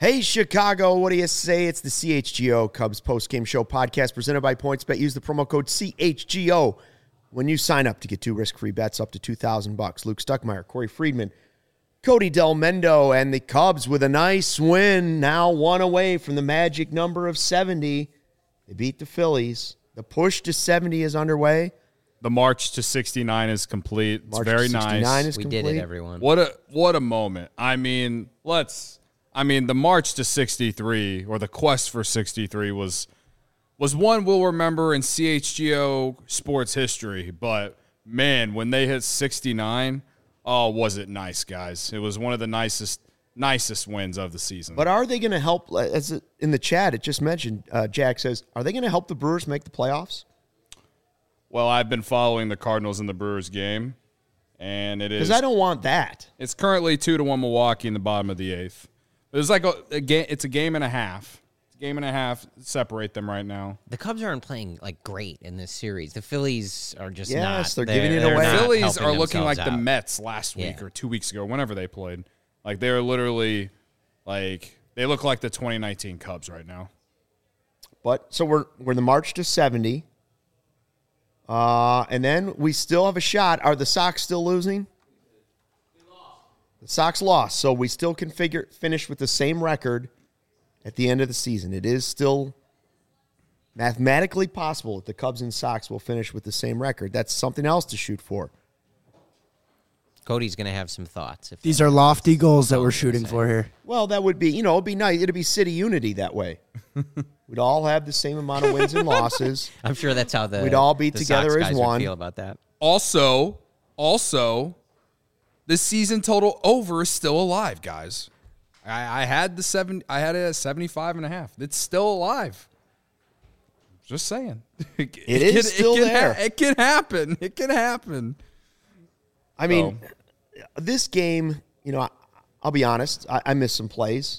Hey, Chicago, what do you say? It's the CHGO Cubs postgame show podcast presented by PointsBet. Use the promo code CHGO when you sign up to get 2 risk-free bets up to $2,000. Luke Stuckmeyer, Corey Friedman, Cody Del Mendo, and the Cubs with a nice win, now 1 away from the magic number of 70. They beat the Phillies. The push to 70 is underway. The march to 69 is complete. It's very nice. We did it, everyone. What a moment. The march to 63, or the quest for 63, was one we'll remember in CHGO sports history. But, man, when they hit 69, oh, was it nice, guys. It was one of the nicest wins of the season. But are they going to help, as in the chat, it just mentioned, Jack says, are they going to help the Brewers make the playoffs? Well, I've been following the Cardinals and the Brewers game, and it is. Because I don't want that. It's currently 2-1 Milwaukee in the bottom of the 8th. It's like a game. It's a game and a half. It's a game and a half separate them right now. The Cubs aren't playing like great in this series. The Phillies are just yes, not. They're giving it away. The Phillies are looking like out. the Mets last week or 2 weeks ago, whenever they played. Like they're literally like they look like the 2019 Cubs right now. But so we're in the march to 70. And then we still have a shot. Are the Sox still losing? The Sox lost, so we still can finish with the same record at the end of the season. It is still mathematically possible that the Cubs and Sox will finish with the same record. That's something else to shoot for. Cody's going to have some thoughts. These are lofty goals that we're shooting for here. Well, that would be, it'd be nice. It'd be city unity that way. We'd all have the same amount of wins and losses. I'm sure that's how we'd all be together Sox as guys one. would feel about that. Also, the season total over is still alive, guys. I had it at 75.5. It's still alive. Just saying. It is still there. It can happen. It can happen. I mean, this game, I'll be honest, I missed some plays.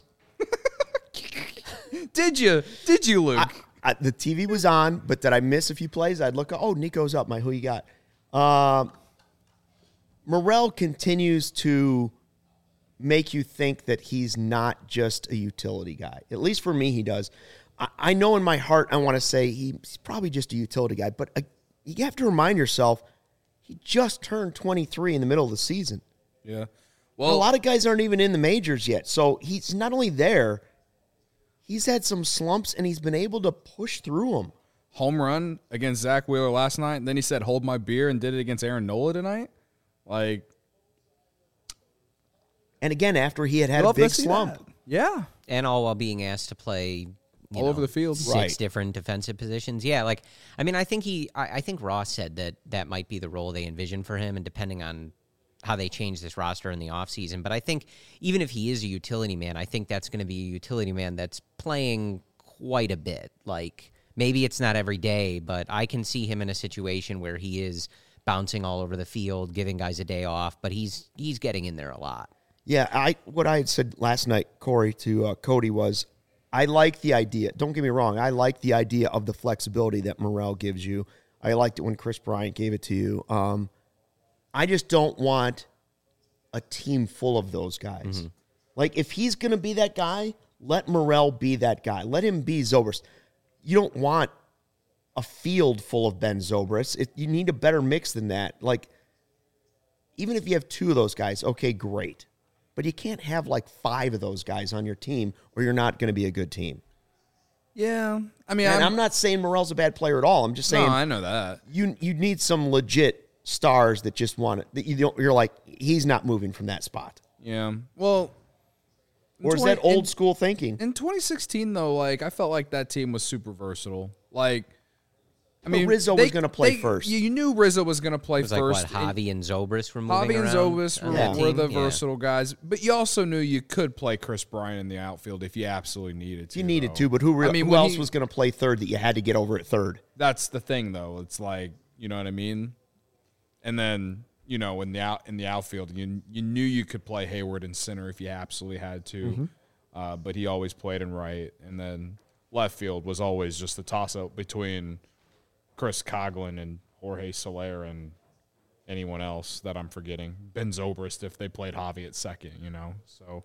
Did you, Luke? The TV was on, but did I miss a few plays? I'd look, Nico's up. Who you got? Morel continues to make you think that he's not just a utility guy. At least for me, he does. I know in my heart I want to say he's probably just a utility guy, but you have to remind yourself he just turned 23 in the middle of the season. Yeah. Well, a lot of guys aren't even in the majors yet, so he's not only there, he's had some slumps, and he's been able to push through them. Home run against Zach Wheeler last night, and then he said, hold my beer, and did it against Aaron Nola tonight. And again, after he had a big slump. That. Yeah. And all while being asked to play all over the field. 6 different defensive positions. Yeah, I think Ross said that might be the role they envision for him, and depending on how they change this roster in the offseason. But I think even if he is a utility man, I think that's going to be a utility man that's playing quite a bit. Maybe it's not every day, but I can see him in a situation where he is bouncing all over the field, giving guys a day off, but he's getting in there a lot. Yeah, what I had said last night, Corey, to Cody was, I like the idea. Don't get me wrong. I like the idea of the flexibility that Morel gives you. I liked it when Chris Bryant gave it to you. I just don't want a team full of those guys. Mm-hmm. If he's going to be that guy, let Morel be that guy. Let him be Zobrist. You don't want a field full of Ben Zobrist. You need a better mix than that. Even if you have 2 of those guys, okay, great. But you can't have 5 of those guys on your team, or you're not going to be a good team. Yeah. I'm not saying Morel's a bad player at all. I'm just saying. No, I know that. You need some legit stars that just want it. That you're like, he's not moving from that spot. Yeah. Well. Or is that old school thinking? In 2016, though, I felt like that team was super versatile. Rizzo was going to play first. You knew Rizzo was going to play first. Javi and Zobrist were moving around? Javi and Zobrist were the versatile guys. But you also knew you could play Chris Bryant in the outfield if you absolutely needed to. You needed to, but who else was going to play third that you had to get over at third? That's the thing, though. It's you know what I mean? And then, in the outfield, you knew you could play Hayward in center if you absolutely had to. Mm-hmm. But he always played in right. And then left field was always just a toss-up between Chris Coghlan and Jorge Soler and anyone else that I'm forgetting. Ben Zobrist if they played Javi at second, So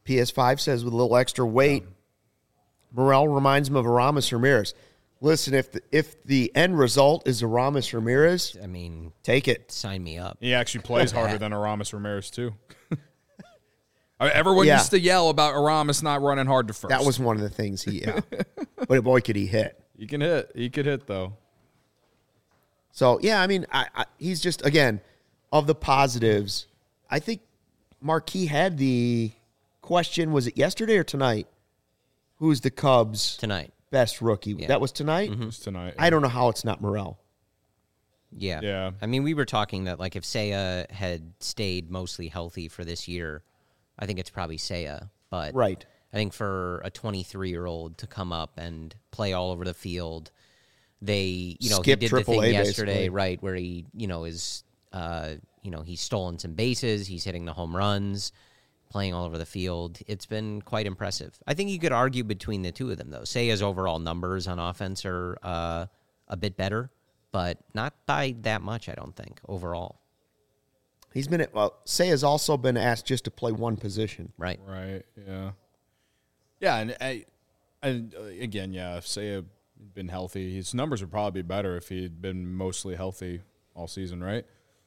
PS5 says with a little extra weight, Morel reminds him of Aramis Ramirez. Listen, if the end result is Aramis Ramirez, I mean, take it. sign me up. He actually plays harder than Aramis Ramirez, too. Everyone used to yell about Aramis not running hard to first. That was one of the things but boy, could he hit. He can hit. He could hit, though. So, yeah, I mean, he's just, again, of the positives, I think Marquis had the question, was it yesterday or tonight? Who's the Cubs' Tonight. best rookie? Yeah. That was tonight? It was tonight. I don't know how it's not Morel. Yeah. Yeah. I mean, we were talking that, like, if Seiya had stayed mostly healthy for this year, I think it's probably Seiya. But Right. I think for a 23-year-old to come up and play all over the field, he Skip did the thing AAA, yesterday, basically. right, where he, is, he's stolen some bases, he's hitting the home runs, playing all over the field. It's been quite impressive. I think you could argue between the two of them, though. Seiya's overall numbers on offense are a bit better, but not by that much, I don't think, overall. He's been Say has also been asked just to play one position. Right. Right, yeah. Yeah, and again, if Seiya had been healthy, his numbers would probably be better if he'd been mostly healthy all season, right?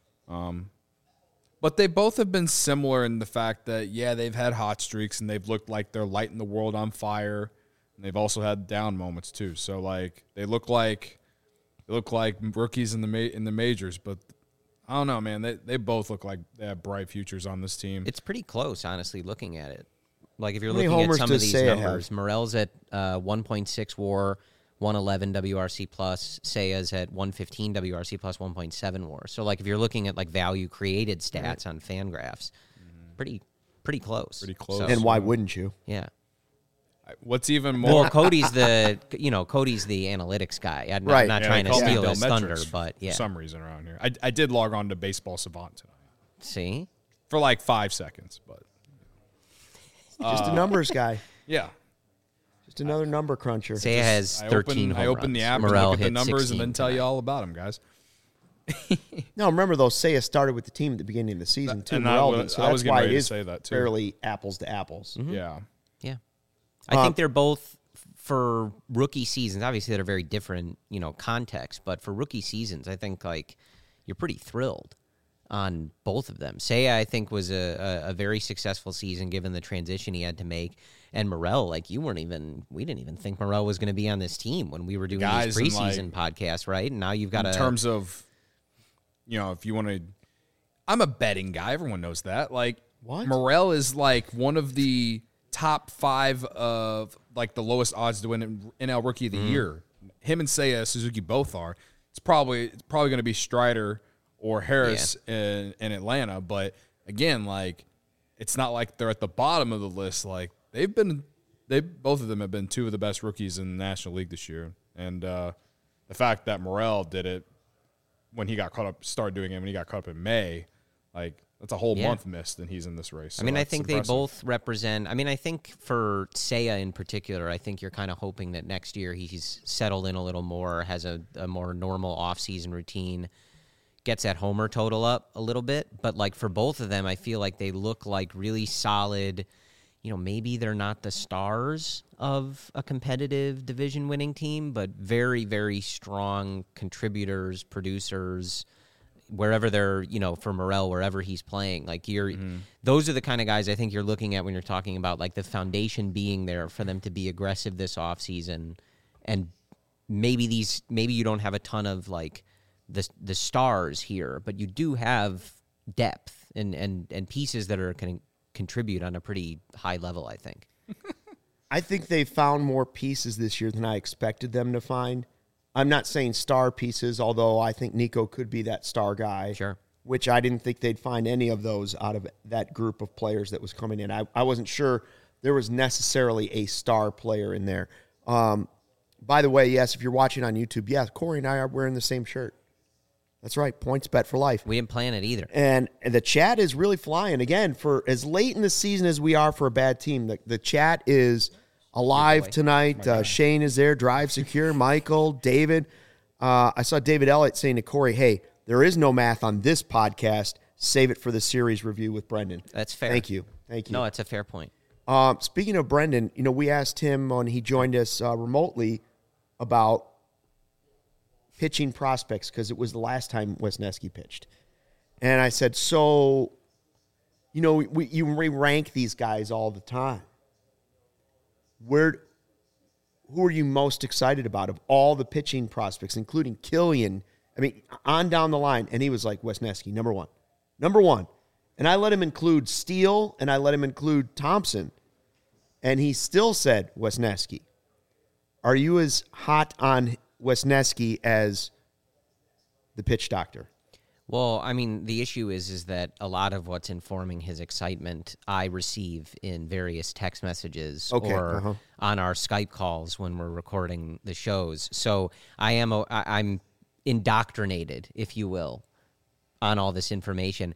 But they both have been similar in the fact that, they've had hot streaks and they've looked like they're lighting the world on fire. And they've also had down moments too. So like they look like rookies in the majors, but I don't know, man. They both look like they have bright futures on this team. It's pretty close, honestly, looking at it. Like if you're How many looking at homers some of does these Seiya numbers, have? Morel's at 1.6 WAR, 111 WRC plus. Seiya's at 115 WRC plus, 1.7 WAR. So like if you're looking at like value created stats on Fangraphs, pretty close. Pretty close. So, And why wouldn't you? yeah. What's even more Well, Cody's the analytics guy. I'm Right. not Yeah, trying they to call me steal Bill his thunder, Metrics but yeah. for some reason around here. I did log on to Baseball Savant tonight See? for like 5 seconds, but Just a numbers guy. yeah. Just another number cruncher. Seiya has 13 I home open the runs. app Morel and look at the hit numbers 16 and then tell you tonight. all about them, guys. No, remember though, Seiya started with the team at the beginning of the season too. And Morel I didn't, was so that's getting why ready it to is say that, too. fairly apples to apples. Yeah. Yeah. I think they're both for rookie seasons. Obviously, they're very different, context. But for rookie seasons, I think like you're pretty thrilled on both of them. Seiya, I think, was a very successful season given the transition he had to make. And Morel, like we didn't even think Morel was going to be on this team when we were doing Guys, these and, preseason podcasts, right? And now you've got In terms of, if you want to, I'm a betting guy. Everyone knows that. Like, What? Morel is like one of the top 5 of like the lowest odds to win NL Rookie of the Year. Him and Seiya Suzuki both are. It's probably going to be Strider or Harris in Atlanta. But again, like it's not like they're at the bottom of the list. Like both of them have been 2 of the best rookies in the National League this year. And the fact that Morel did it when he got caught up, started doing it when he got caught up in May, like that's a whole month missed, and he's in this race. So I mean, I that's think impressive. they both represent. I mean, I think for Seiya in particular, I think you're kind of hoping that next year he's settled in a little more, has a more normal off-season routine, gets that homer total up a little bit. But like for both of them, I feel like they look like really solid. Maybe they're not the stars of a competitive division-winning team, but very, very strong contributors, producers. Wherever they're, for Morel, wherever he's playing, like those are the kind of guys I think you're looking at when you're talking about like the foundation being there for them to be aggressive this offseason. And maybe you don't have a ton of like the stars here, but you do have depth and pieces that are going to contribute on a pretty high level, I think. I think they found more pieces this year than I expected them to find. I'm not saying star pieces, although I think Nico could be that star guy. Sure. Which I didn't think they'd find any of those out of that group of players that was coming in. I wasn't sure there was necessarily a star player in there. By the way, yes, if you're watching on YouTube, yes, Corey and I are wearing the same shirt. That's right, points bet for life. We didn't plan it either. And the chat is really flying. Again, for as late in the season as we are for a bad team, the chat is alive tonight. Shane is there, Drive Secure, Michael, David. I saw David Elliott saying to Corey, hey, there is no math on this podcast. Save it for the series review with Brendan. That's fair. Thank you. No, it's a fair point. Speaking of Brendan, we asked him when he joined us remotely about pitching prospects because it was the last time Wesneski pitched. And I said, so, you rank these guys all the time. Who are you most excited about of all the pitching prospects, including Killian? I mean, on down the line. And he was like, Wesneski, number one. Number one. And I let him include Steele, and I let him include Thompson. And he still said Wesneski. Are you as hot on Wesneski as the pitch doctor? Well, I mean, the issue is that a lot of what's informing his excitement I receive in various text messages or on our Skype calls when we're recording the shows. So I'm indoctrinated, if you will, on all this information.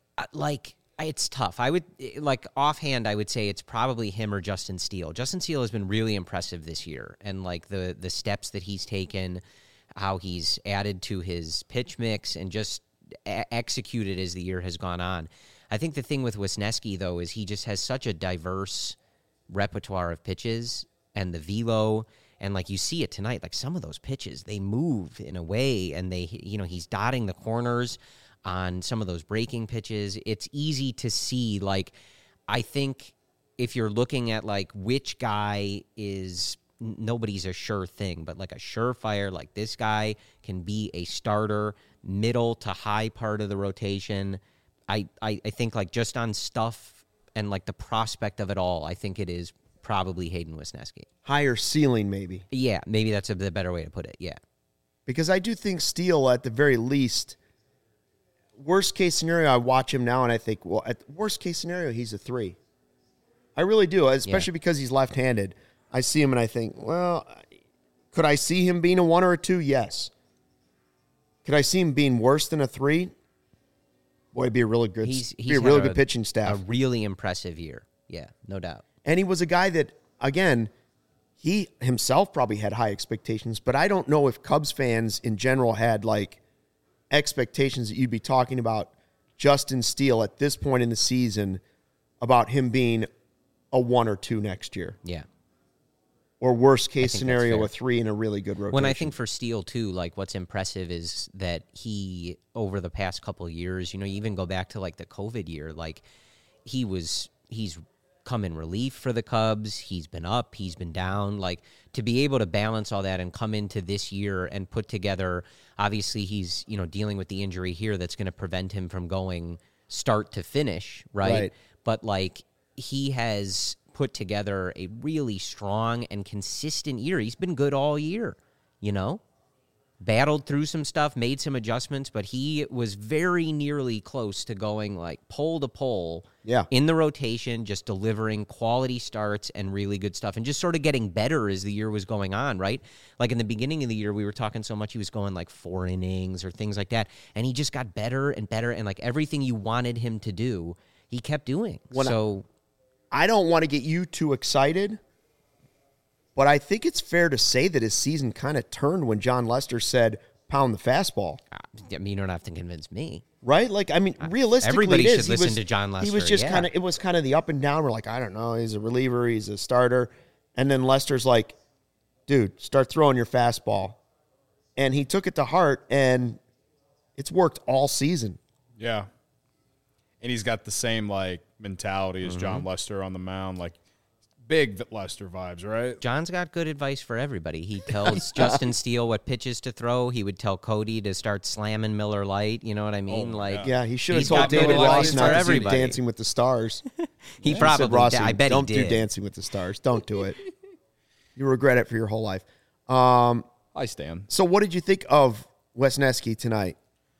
It's tough. I would, offhand, I would say it's probably him or Justin Steele. Justin Steele has been really impressive this year, and the steps that he's taken, how he's added to his pitch mix and just executed as the year has gone on. I think the thing with Wesneski, though, is he just has such a diverse repertoire of pitches and the velo, and you see it tonight, some of those pitches, they move in a way, and he's dotting the corners on some of those breaking pitches. It's easy to see, I think if you're looking at, which guy is, nobody's a sure thing, but a surefire, this guy can be a starter, middle to high part of the rotation. I think, just on stuff and, the prospect of it all, I think it is probably Hayden Wesneski. Higher ceiling, maybe. Yeah, maybe that's the better way to put it, yeah. Because I do think Steele, at the very least, worst case scenario, I watch him now and I think, well, at worst case scenario, he's a 3. I really do, especially because he's left-handed. I see him and I think, well, could I see him being a 1 or a 2? Yes. Could I see him being worse than a 3? Boy, it'd be a really good, good pitching staff. A really impressive year. Yeah, no doubt. And he was a guy that, again, he himself probably had high expectations, but I don't know if Cubs fans in general had, expectations that you'd be talking about Justin Steele at this point in the season about him being a 1 or 2 next year. Yeah. Or worst case scenario, a 3 in a really good rotation. When I think for Steele, too, what's impressive is that he, over the past couple of years, you even go back to, the COVID year, he's come in relief for the Cubs. He's been up, he's been down. To be able to balance all that and come into this year and put together, obviously he's, dealing with the injury here that's going to prevent him from going start to finish, right? But, he has put together a really strong and consistent year. He's been good all year, battled through some stuff, made some adjustments, but he was very nearly close to going pole to pole in the rotation, just delivering quality starts and really good stuff and just sort of getting better as the year was going on, right? In the beginning of the year, we were talking so much he was going 4 innings or things like that, and he just got better and better, and everything you wanted him to do, he kept doing. I don't want to get you too excited, but I think it's fair to say that his season kind of turned when John Lester said, pound the fastball. I mean, you don't have to convince me. Right? Realistically, everybody should listen to John Lester. He was just it was kind of the up and down. We're I don't know, he's a reliever, he's a starter. And then Lester's dude, start throwing your fastball. And he took it to heart, and it's worked all season. Yeah. And he's got the same, mentality as John Lester on the mound, big Lester vibes, right? John's got good advice for everybody. He tells Justin Steele what pitches to throw. He would tell Cody to start slamming Miller Lite. You know what I mean? He should have told David Ross not to do Dancing with the Stars. He probably did. I bet don't he did. Do Dancing with the Stars. Don't do it. You regret it for your whole life. I stand. So what did you think of Wesneski tonight?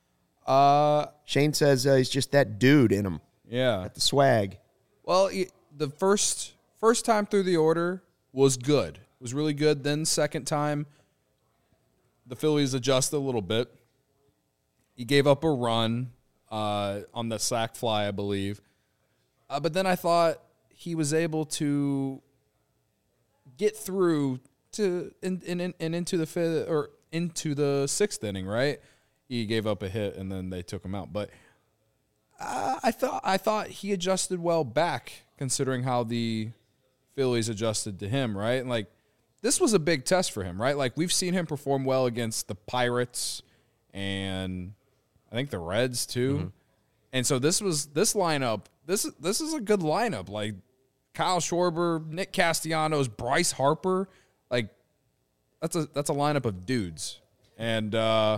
Shane says he's just that dude in him. Yeah. At the swag. Well, the first time through the order was good. It was really good. Then second time, the Phillies adjusted a little bit. He gave up a run on the sac fly, I believe. But then I thought he was able to get through to and into the fifth or into the sixth inning, right? He gave up a hit and then they took him out. But I thought he adjusted well back considering how the Phillies adjusted to him, right? And like, this was a big test for him, right? Like, we've seen him perform well against the Pirates and I think the Reds too. Mm-hmm. And so this lineup, this is a good lineup. Like, Kyle Schwarber, Nick Castellanos, Bryce Harper, like that's a lineup of dudes. And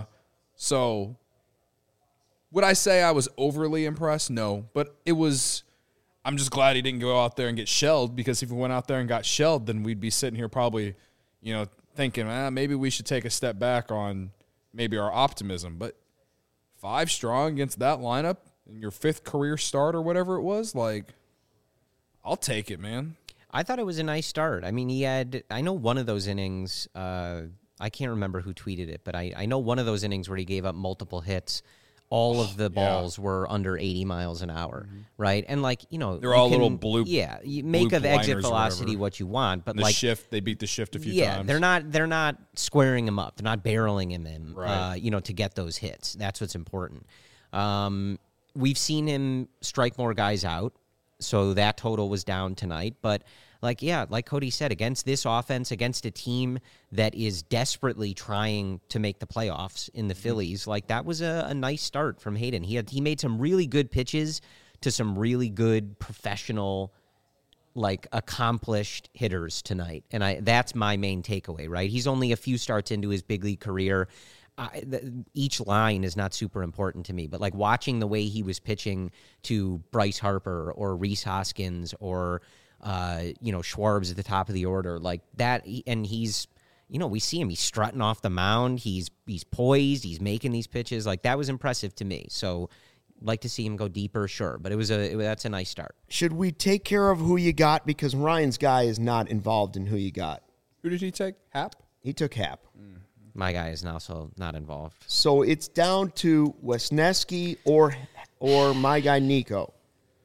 so would I say I was overly impressed? No, but I'm just glad he didn't go out there and get shelled, because if he went out there and got shelled, then we'd be sitting here probably, thinking, maybe we should take a step back on maybe our optimism. But 5 strong against that lineup in your 5th career start or whatever it was, like, I'll take it, man. I thought it was a nice start. I mean, I know one of those innings, I can't remember who tweeted it, but I know one of those innings where he gave up multiple hits. All of the balls were under 80 miles an hour, right? And they're all little blue. Yeah, you make of exit velocity what you want, but the shift, they beat the shift a few times. Yeah, they're not squaring him up. They're not barreling him in, right. To get those hits. That's what's important. We've seen him strike more guys out, so that total was down tonight. But like Cody said, against this offense, against a team that is desperately trying to make the playoffs in the Phillies, like, that was a nice start from Hayden. He made some really good pitches to some really good professional, like, accomplished hitters tonight. And that's my main takeaway, right? He's only a few starts into his big league career. Each line is not super important to me, but like watching the way he was pitching to Bryce Harper or Rhys Hoskins or Schwarbs at the top of the order, like that, and he's, we see him, he's strutting off the mound, he's poised, he's making these pitches, like, that was impressive to me. So like to see him go deeper, sure, but that's a nice start. Should we take care of who you got, because Ryan's guy is not involved in who you got? Who did he take? Happ? He took Happ. My guy is also not involved. So it's down to Wesneski or my guy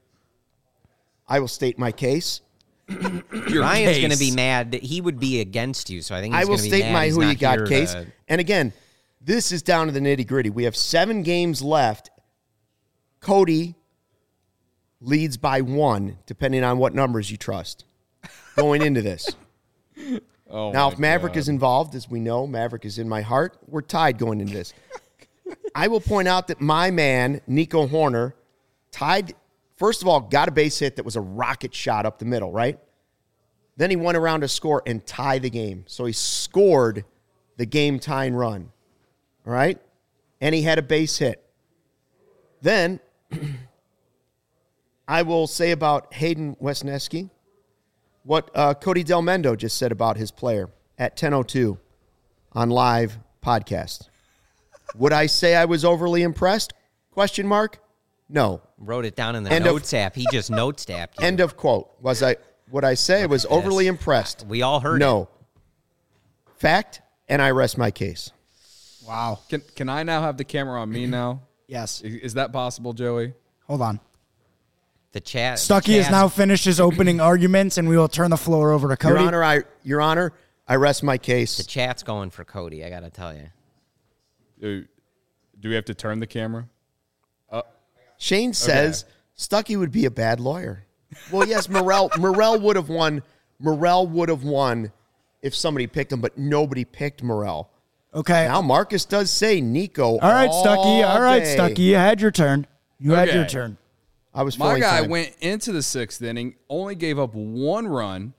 I will state my case. Ryan's going to be mad that he would be against you, so I think he's I will gonna be state mad my he's who not you got here case. to... And again, this is down to the nitty-gritty. We have 7 games left. Cody leads by 1, depending on what numbers you trust, going into this. Now, if Maverick is involved, as we know, Maverick is in my heart, we're tied going into this. I will point out that my man, Nico Horner, tied, first of all, got a base hit that was a rocket shot up the middle, right? Then he went around to score and tie the game. So he scored the game-tying run, all right? And he had a base hit. Then I will say about Hayden Wesneski what Cody Del Mendo just said about his player at 10:02 on live podcast. Would I say I was overly impressed? Question mark. No. Wrote it down in the notes app. He just notes tapped you. End of quote. Would I say I was overly impressed? We all heard it. No. Fact, and I rest my case. Wow. Can I now have the camera on me now? Yes. Is that possible, Joey? Hold on. The chat. Stuckey has now finished his opening arguments, and we will turn the floor over to Cody. Your Honor, I rest my case. The chat's going for Cody, I got to tell you. Do we have to turn the camera? Shane says Stuckey would be a bad lawyer. Well, yes, Morel would have won. Morel would have won if somebody picked him, but nobody picked Morel. Okay. Now Marcus does say Nico. All right, Stuckey. All right, day. Stuckey. You had your turn. Had your turn. I was My guy time. went into the 6th inning, only gave up 1 run,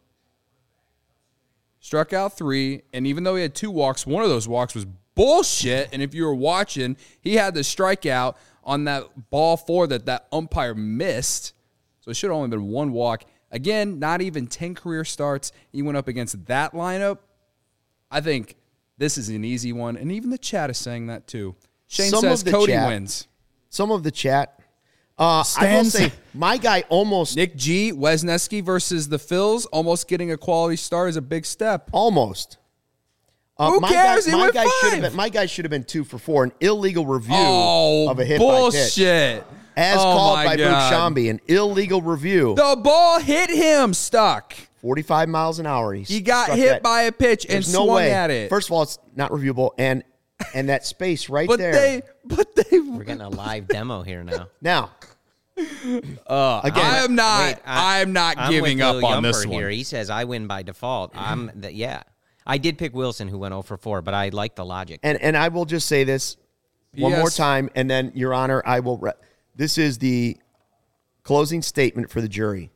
struck out 3, and even though he had 2 walks, one of those walks was bullshit. And if you were watching, he had the strikeout on that ball 4 that umpire missed. So it should have only been 1 walk. Again, not even 10 career starts. He went up against that lineup. I think this is an easy one, and even the chat is saying that too. Shane says Cody wins. Some of the chat. I will say my guy almost Nick G. Wesneski versus the Phils, almost getting a quality start is a big step. Almost. Who cares? My guy should have been 2 for 4. An illegal review of a hit by pitch. Bullshit. As called by Boog Shambi, an illegal review. The ball hit him, stuck. 45 miles an hour. He got hit by a pitch and swung at it. First of all, it's not reviewable, and that space right but there. We're getting a live demo here now. Now, Again, I'm not. Wait, I'm not I'm giving with up Lil on this Yumper one. here. He says I win by default. Yeah. I did pick Wilson, who went 0 for 4, but I like the logic. and I will just say this one more time, and then, Your Honor, I will. This is the closing statement for the jury.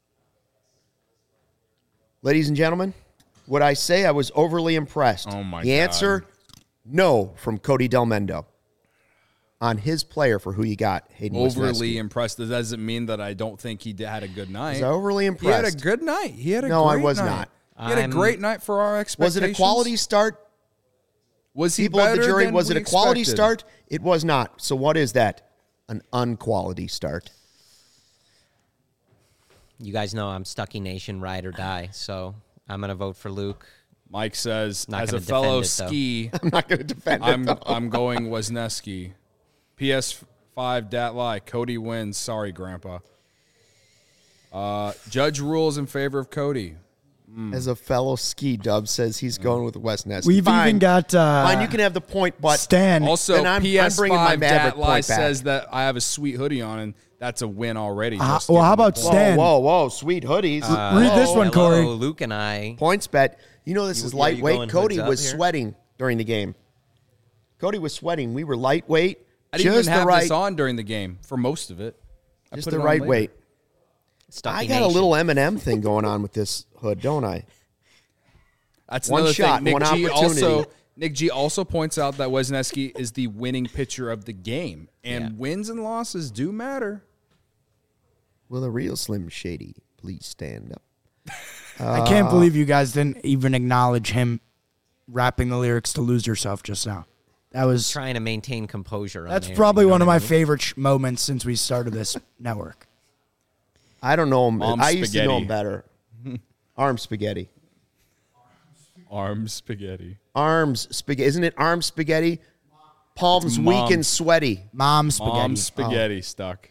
Ladies and gentlemen, would I say I was overly impressed? Oh, my The God. answer, no, from Cody Delmendo. On his player for who you got, Hayden Overly Wisniewski. impressed. That doesn't mean that I don't think he had a good night. Was I overly He impressed? had a good night. He had a No, great I was night. not. He had a great night for our expectations. Was it a quality start? Was he People of the better jury, than was we it a quality expected? start? It was not. So what is that? An unquality start. You guys know I'm Stucky Nation, ride or die. So I'm going to vote for Luke. Mike says, Not as a gonna fellow defend it, though. ski, I'm not going to defend it. though. I'm going Wisniewski. PS5 dat lie. Cody wins. Sorry, Grandpa. Judge rules in favor of Cody. As a fellow ski dub says he's going with Wisniewski. We've Fine. even got Fine, you can have the point, but Stan. Also, Then I'm PS5 bringing my Maverick dat lie point back. says that I have a sweet hoodie on, and that's a win already. Just well, give how him the about point. Stan? whoa, sweet hoodies. Read this one, Hello, Corey. Luke and I. Points bet. You know this You- is are you lightweight. going Cody hoods up was here? sweating during the game. Cody was sweating. We were lightweight. I didn't just even have the right, this on during the game for most of it. I just put the it on right later. weight. Stucky I got a Nation. little Eminem thing going on with this hood, don't I? That's One another shot, thing. one opportunity. Nick G also points out that Wisniewski is the winning pitcher of the game, and wins and losses do matter. Will the real Slim Shady please stand up? I can't believe you guys didn't even acknowledge him rapping the lyrics to "Lose Yourself" just now. That was Trying to maintain composure. that's on there, probably you know one of what I my mean? favorite moments since we started this network. I don't know him. Mom I used to know spaghetti. him better. Arm spaghetti. Arm spaghetti. Arms spaghetti. Isn't it arm spaghetti? Palms It's weak mom's. and sweaty. Mom spaghetti. Mom spaghetti stuck.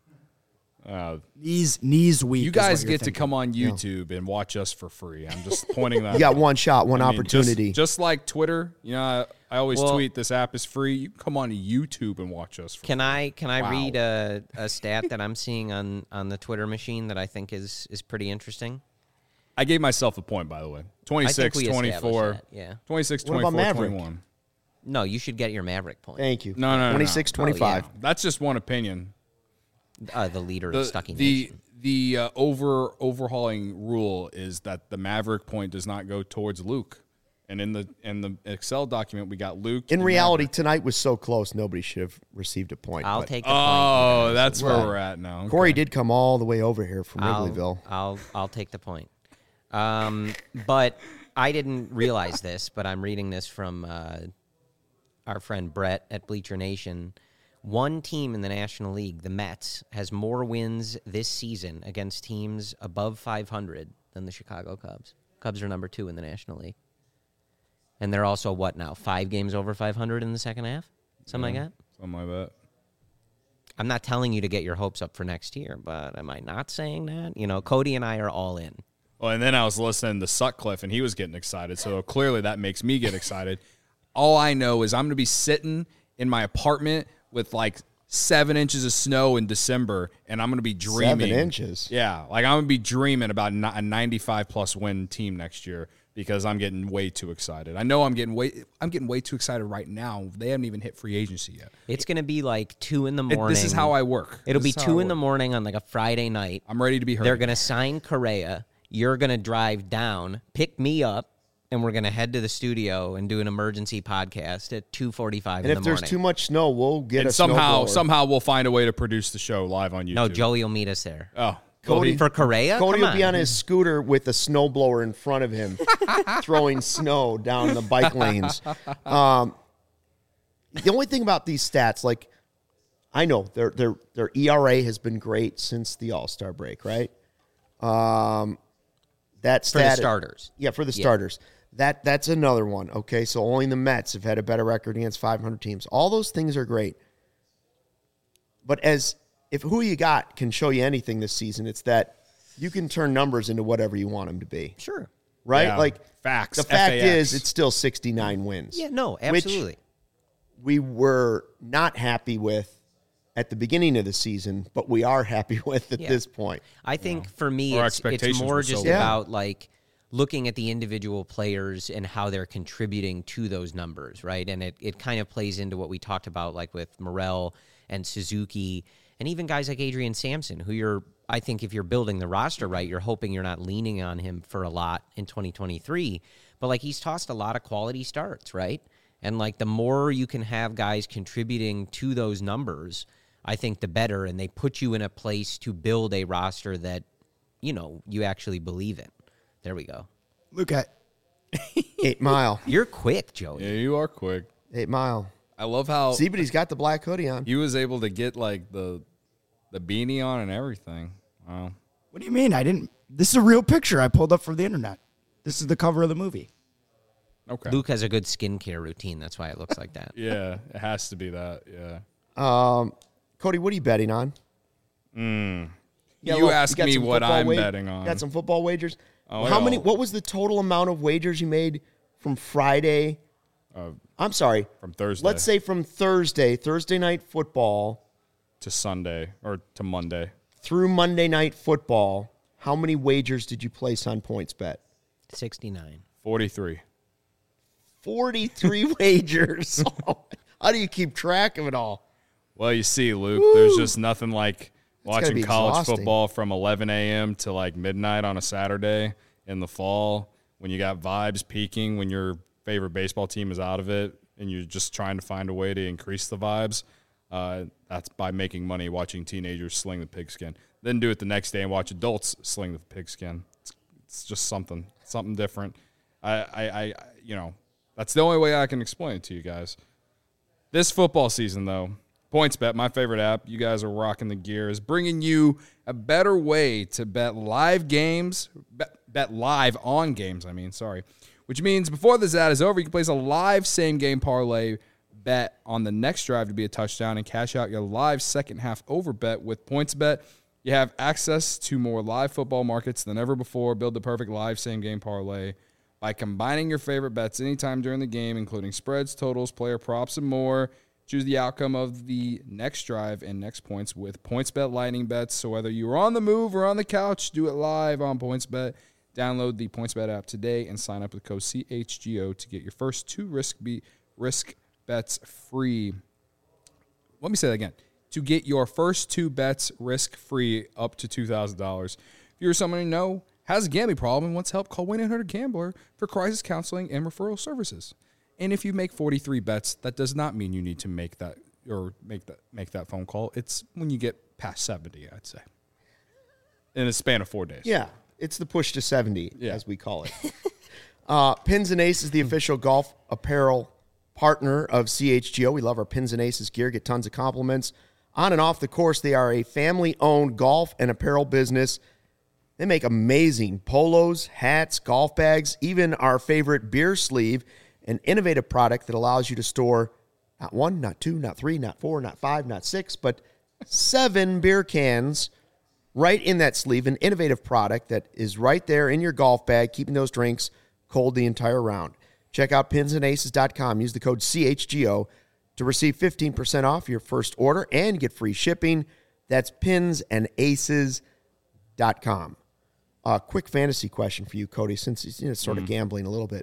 Knees weak. You is guys what you're get to thinking. come on YouTube and watch us for free. I'm just pointing that You got out. one shot, one I mean, opportunity. Just like Twitter, you know, I always Well- tweet this app is free. You can come on to YouTube and watch us for Can free. I read a stat that I'm seeing on the Twitter machine that I think is pretty interesting? I gave myself a point, by the way. 26, we established 24. that, yeah. 26, What about 24, Maverick? 21. No, you should get your Maverick point. Thank you. No. 26, 25. Oh, That's just one opinion. The leader of Stucky The Nation. overhauling rule is that the Maverick point does not go towards Luke. And in the Excel document, we got Luke. In and reality, Maverick. tonight was so close, nobody should have received a point. I'll but take the point. Oh, you guys. that's where well. we're at now. Okay. Corey did come all the way over here from I'll- Wrigleyville. I'll take the point. But I didn't realize this, but I'm reading this from our friend Brett at Bleacher Nation. One team in the National League, the Mets, has more wins this season against teams above 500 than the Chicago Cubs. Cubs are number 2 in the National League. And they're also, 5 games over 500 in the second half? Something like that? Something like that. I'm not telling you to get your hopes up for next year, but am I not saying that? You know, Cody and I are all in. Well, and then I was listening to Sutcliffe, and he was getting excited. So clearly that makes me get excited. All I know is I'm going to be sitting in my apartment with like 7 inches of snow in December, and I'm going to be dreaming. 7 inches. Yeah, like I'm going to be dreaming about a 95-plus win team next year because I'm getting way too excited. I know I'm getting way too excited right now. They haven't even hit free agency yet. It's going to be like 2 in the morning. This is how I work. It'll be This is how 2 I in the work. morning on like a Friday night. I'm ready to be heard. They're going to sign Correa. You're going to drive down, pick me up, and we're going to head to the studio and do an emergency podcast at 2:45 in And the if morning. there's too much snow, we'll get and a somehow snowblower. we'll find a way to produce the show live on YouTube. No, Joey will meet us there. Oh, Cody- For Correa? Cody Come will be on. on his scooter with a snowblower in front of him, throwing snow down the bike lanes. The only thing about these stats, like, I know their ERA has been great since the All-Star break, right? That For the stat, starters. yeah, for the starters. That's another one. Okay, so only the Mets have had a better record against 500 teams. All those things are great, but if who you got can show you anything this season, it's that you can turn numbers into whatever you want them to be. Sure. Right? Yeah. Like Facts. The fact FAX. is, it's still 69 wins. Yeah, no, which absolutely. we were not happy with at the beginning of the season, but we are happy with at this point. I think for me, Our it's expectations more were so just low. about like looking at the individual players and how they're contributing to those numbers, right? And it kind of plays into what we talked about, like with Morel and Suzuki, and even guys like Adrian Sampson, who I think if you're building the roster right, you're hoping you're not leaning on him for a lot in 2023. But like he's tossed a lot of quality starts, right? And like the more you can have guys contributing to those numbers, I think the better, and they put you in a place to build a roster that, you actually believe in. There we go. Look at 8 Mile. You're quick, Joey. Yeah, you are quick. 8 Mile. I love how See, but he's got the black hoodie on. he was able to get like the beanie on and everything. Wow. What do you mean? This is a real picture I pulled up from the internet. This is the cover of the movie. Okay. Luke has a good skincare routine. That's why it looks like that. Yeah, it has to be that. Yeah. Cody, what are you betting on? You ask got me some what football I'm betting on. Got some football wagers? Oh, How yeah. many? What was the total amount of wagers you made from Friday? I'm sorry. From Thursday. Let's say from Thursday night football to Sunday or to Monday. through Monday night football. How many wagers did you place on PointsBet? 69. 43. 43 wagers. How do you keep track of it all? Well, you see, Luke, there's just nothing like gotta watching be college exhausting. football from 11 a.m. to like midnight on a Saturday in the fall when you got vibes peaking, when your favorite baseball team is out of it and you're just trying to find a way to increase the vibes. That's by making money watching teenagers sling the pigskin. Then do it the next day and watch adults sling the pigskin. It's just something different. I that's the only way I can explain it to you guys. This football season, though, PointsBet, my favorite app, you guys are rocking the gears, bringing you a better way to bet live games, bet live on games, which means before this ad is over, you can place a live same-game parlay bet on the next drive to be a touchdown and cash out your live second-half over bet with PointsBet. You have access to more live football markets than ever before. Build the perfect live same-game parlay by combining your favorite bets anytime during the game, including spreads, totals, player props, and more. Choose the outcome of the next drive and next points with PointsBet Lightning Bets. So whether you're on the move or on the couch, do it live on PointsBet. Download the PointsBet app today and sign up with code CHGO to get your first 2 risk bets free. Let me say that again. To get your first 2 bets risk-free up to $2,000. If you're someone you know has a gambling problem and wants help, call 1-800-GAMBLER for crisis counseling and referral services. And if you make 43 bets, that does not mean you need to make that phone call. It's when you get past 70, I'd say, in a span of 4 days. Yeah, it's the push to 70, Yeah. as we call it. Pins and Aces, the official golf apparel partner of CHGO. We love our Pins and Aces gear. Get tons of compliments. On and off the course, they are a family-owned golf and apparel business. They make amazing polos, hats, golf bags, even our favorite beer sleeve, an innovative product that allows you to store not 1, not 2, not 3, not 4, not 5, not 6, but 7 beer cans right in that sleeve. An innovative product that is right there in your golf bag, keeping those drinks cold the entire round. Check out pinsandaces.com. Use the code CHGO to receive 15% off your first order and get free shipping. That's pinsandaces.com. Quick fantasy question for you, Cody, since he's sort of gambling a little bit.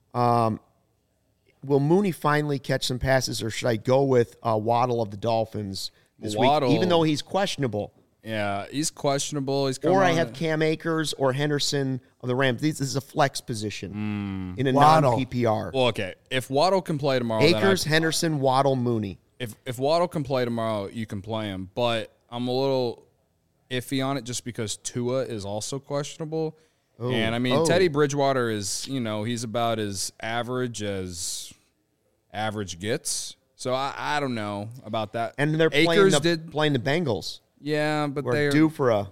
Will Mooney finally catch some passes, or should I go with Waddle of the Dolphins this Waddle. week, even though he's questionable? Yeah, he's questionable. Or I have Cam Akers or Henderson of the Rams. This is a flex position in a Waddle. non-PPR. Well, okay. If Waddle can play tomorrow, then Akers, Henderson, Waddle, Mooney. If Waddle can play tomorrow, you can play him. But I'm a little iffy on it just because Tua is also questionable. And, Teddy Bridgewater is, he's about as average gets. So I don't know about that. And they're Akers playing the Bengals. Yeah, but We're they're due for a...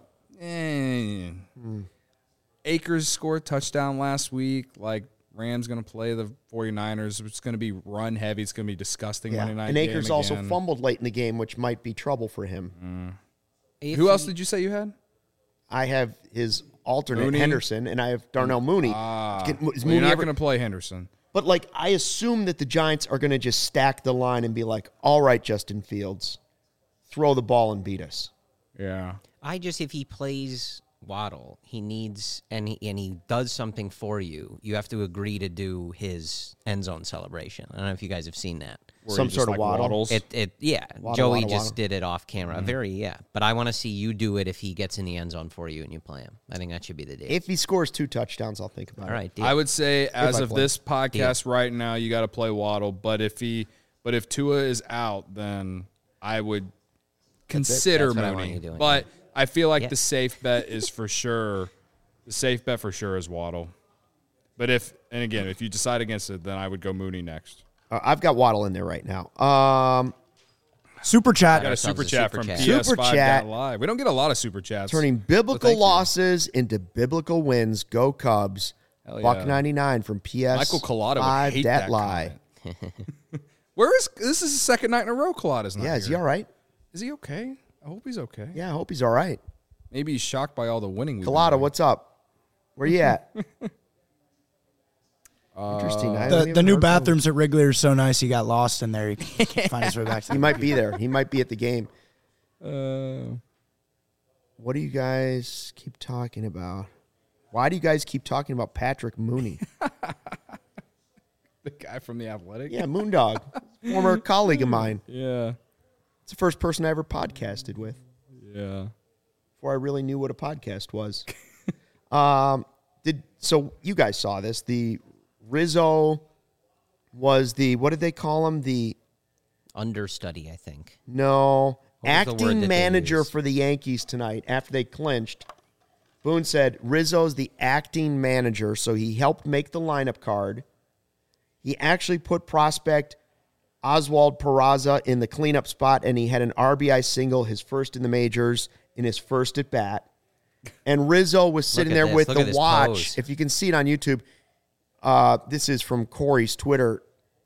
Akers scored a touchdown last week. Like, Rams going to play the 49ers. It's going to be run heavy. It's going to be disgusting Monday night And game Akers also again. fumbled late in the game, which might be trouble for him. Who else did you say you had? I have his alternate, Mooney? Henderson, and I have Darnell Mooney. Is Well, Mooney you're not ever- going to play Henderson. But, I assume that the Giants are going to just stack the line and be like, all right, Justin Fields, throw the ball and beat us. Yeah. if he plays Waddle, he needs, and he does something for you, you have to agree to do his end zone celebration. I don't know if you guys have seen that. Where Some he sort just, of waddle. waddles. Waddle, Joey waddle, just waddle. did it off camera. But I want to see you do it if he gets in the end zone for you and you play him. I think that should be the deal. If he scores 2 touchdowns, I'll think about All it. right, deal. I would say as I of play. this podcast right now, you got to play Waddle. But if Tua is out, then I would consider That's what I want Mooney. you doing. But I feel like Yeah. the safe bet is for sure. The safe bet for sure is Waddle. But if you decide against it, then I would go Mooney next. I've got Waddle in there right now. Super chat. Got a ourselves super a chat super from chat. Super chat. PS5.live. We don't get a lot of super chats. Turning So biblical thank you. losses into biblical wins. Go Cubs. Hell yeah. Buck 99 from PS. Michael Collada would hate that lie. comment. This is the second night in a row Collada's not Yeah, here. is he all right? Is he okay? I hope he's okay. Yeah, I hope he's all right. Maybe he's shocked by all the winning. we've been Collada, doing. what's up? Where you at? Interesting. I haven't The even new heard from him. bathrooms at Wrigley are so nice. He got lost in there. He can't find his way back. He might be there. He might be at the game. Uh, What do you guys keep talking about? Why do you guys keep talking about Patrick Mooney? the guy from the Athletic. Yeah, Moondog, former colleague of mine. Yeah. It's the first person I ever podcasted with Yeah. before I really knew what a podcast was. So you guys saw this? The Rizzo was the, what did they call him? The Understudy, I think. no What was the word that acting they manager used? for the Yankees tonight after they clinched. Boone said Rizzo's the acting manager, so he helped make the lineup card. He actually put prospect Oswald Peraza in the cleanup spot, and he had an RBI single, his first in the majors, in his first at bat. And Rizzo was sitting at there this. with Look at the this watch. pose. If you can see it on YouTube, this is from Corey's Twitter.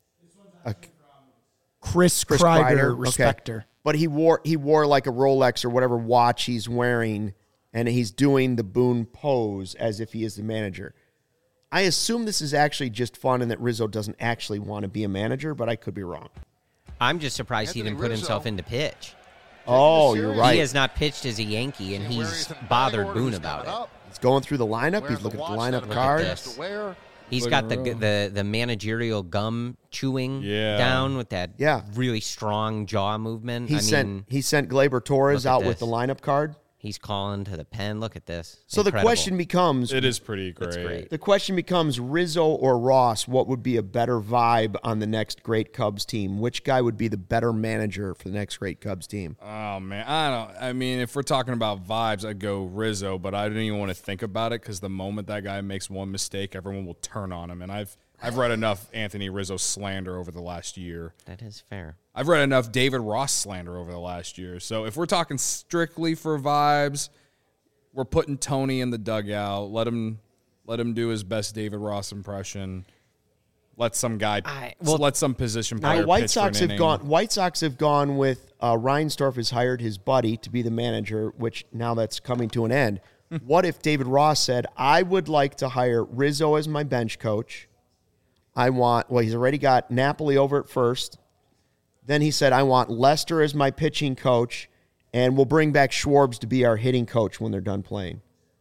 Chris Chris Kreider, okay. respecter. But he wore like a Rolex or whatever watch he's wearing, and he's doing the Boone pose as if he is the manager. I assume this is actually just fun and that Rizzo doesn't actually want to be a manager, but I could be wrong. I'm just surprised he Anthony didn't put Rizzo. himself into pitch. Oh, you're right. He has not pitched as a Yankee, and he's bothered Boone about it. He's going through the lineup. He's looking at the lineup card. this. He's Look got at the managerial gum chewing Yeah. down with that Yeah. really strong jaw movement. He sent Gleyber Torres look at out with this. the lineup card. He's calling to the pen. Look at this. So the Incredible. question becomes, It is pretty great. It's great. the question becomes Rizzo or Ross, what would be a better vibe on the next great Cubs team? Which guy would be the better manager for the next great Cubs team? Oh man, I mean, if we're talking about vibes, I'd go Rizzo, but I don't even want to think about it because the moment that guy makes one mistake, everyone will turn on him. And I've read enough Anthony Rizzo slander over the last year. That is fair. I've read enough David Ross slander over the last year. So if we're talking strictly for vibes, we're putting Tony in the dugout. Let him do his best David Ross impression. Let some guy, let some position player. Now, White pitch for an Sox have inning. gone. White Sox have gone with Reinsdorf has hired his buddy to be the manager, which now that's coming to an end. What if David Ross said, "I would like to hire Rizzo as my bench coach. He's already got Napoli over at first. Then he said, I want Lester as my pitching coach, and we'll bring back Schwarbs to be our hitting coach when they're done playing."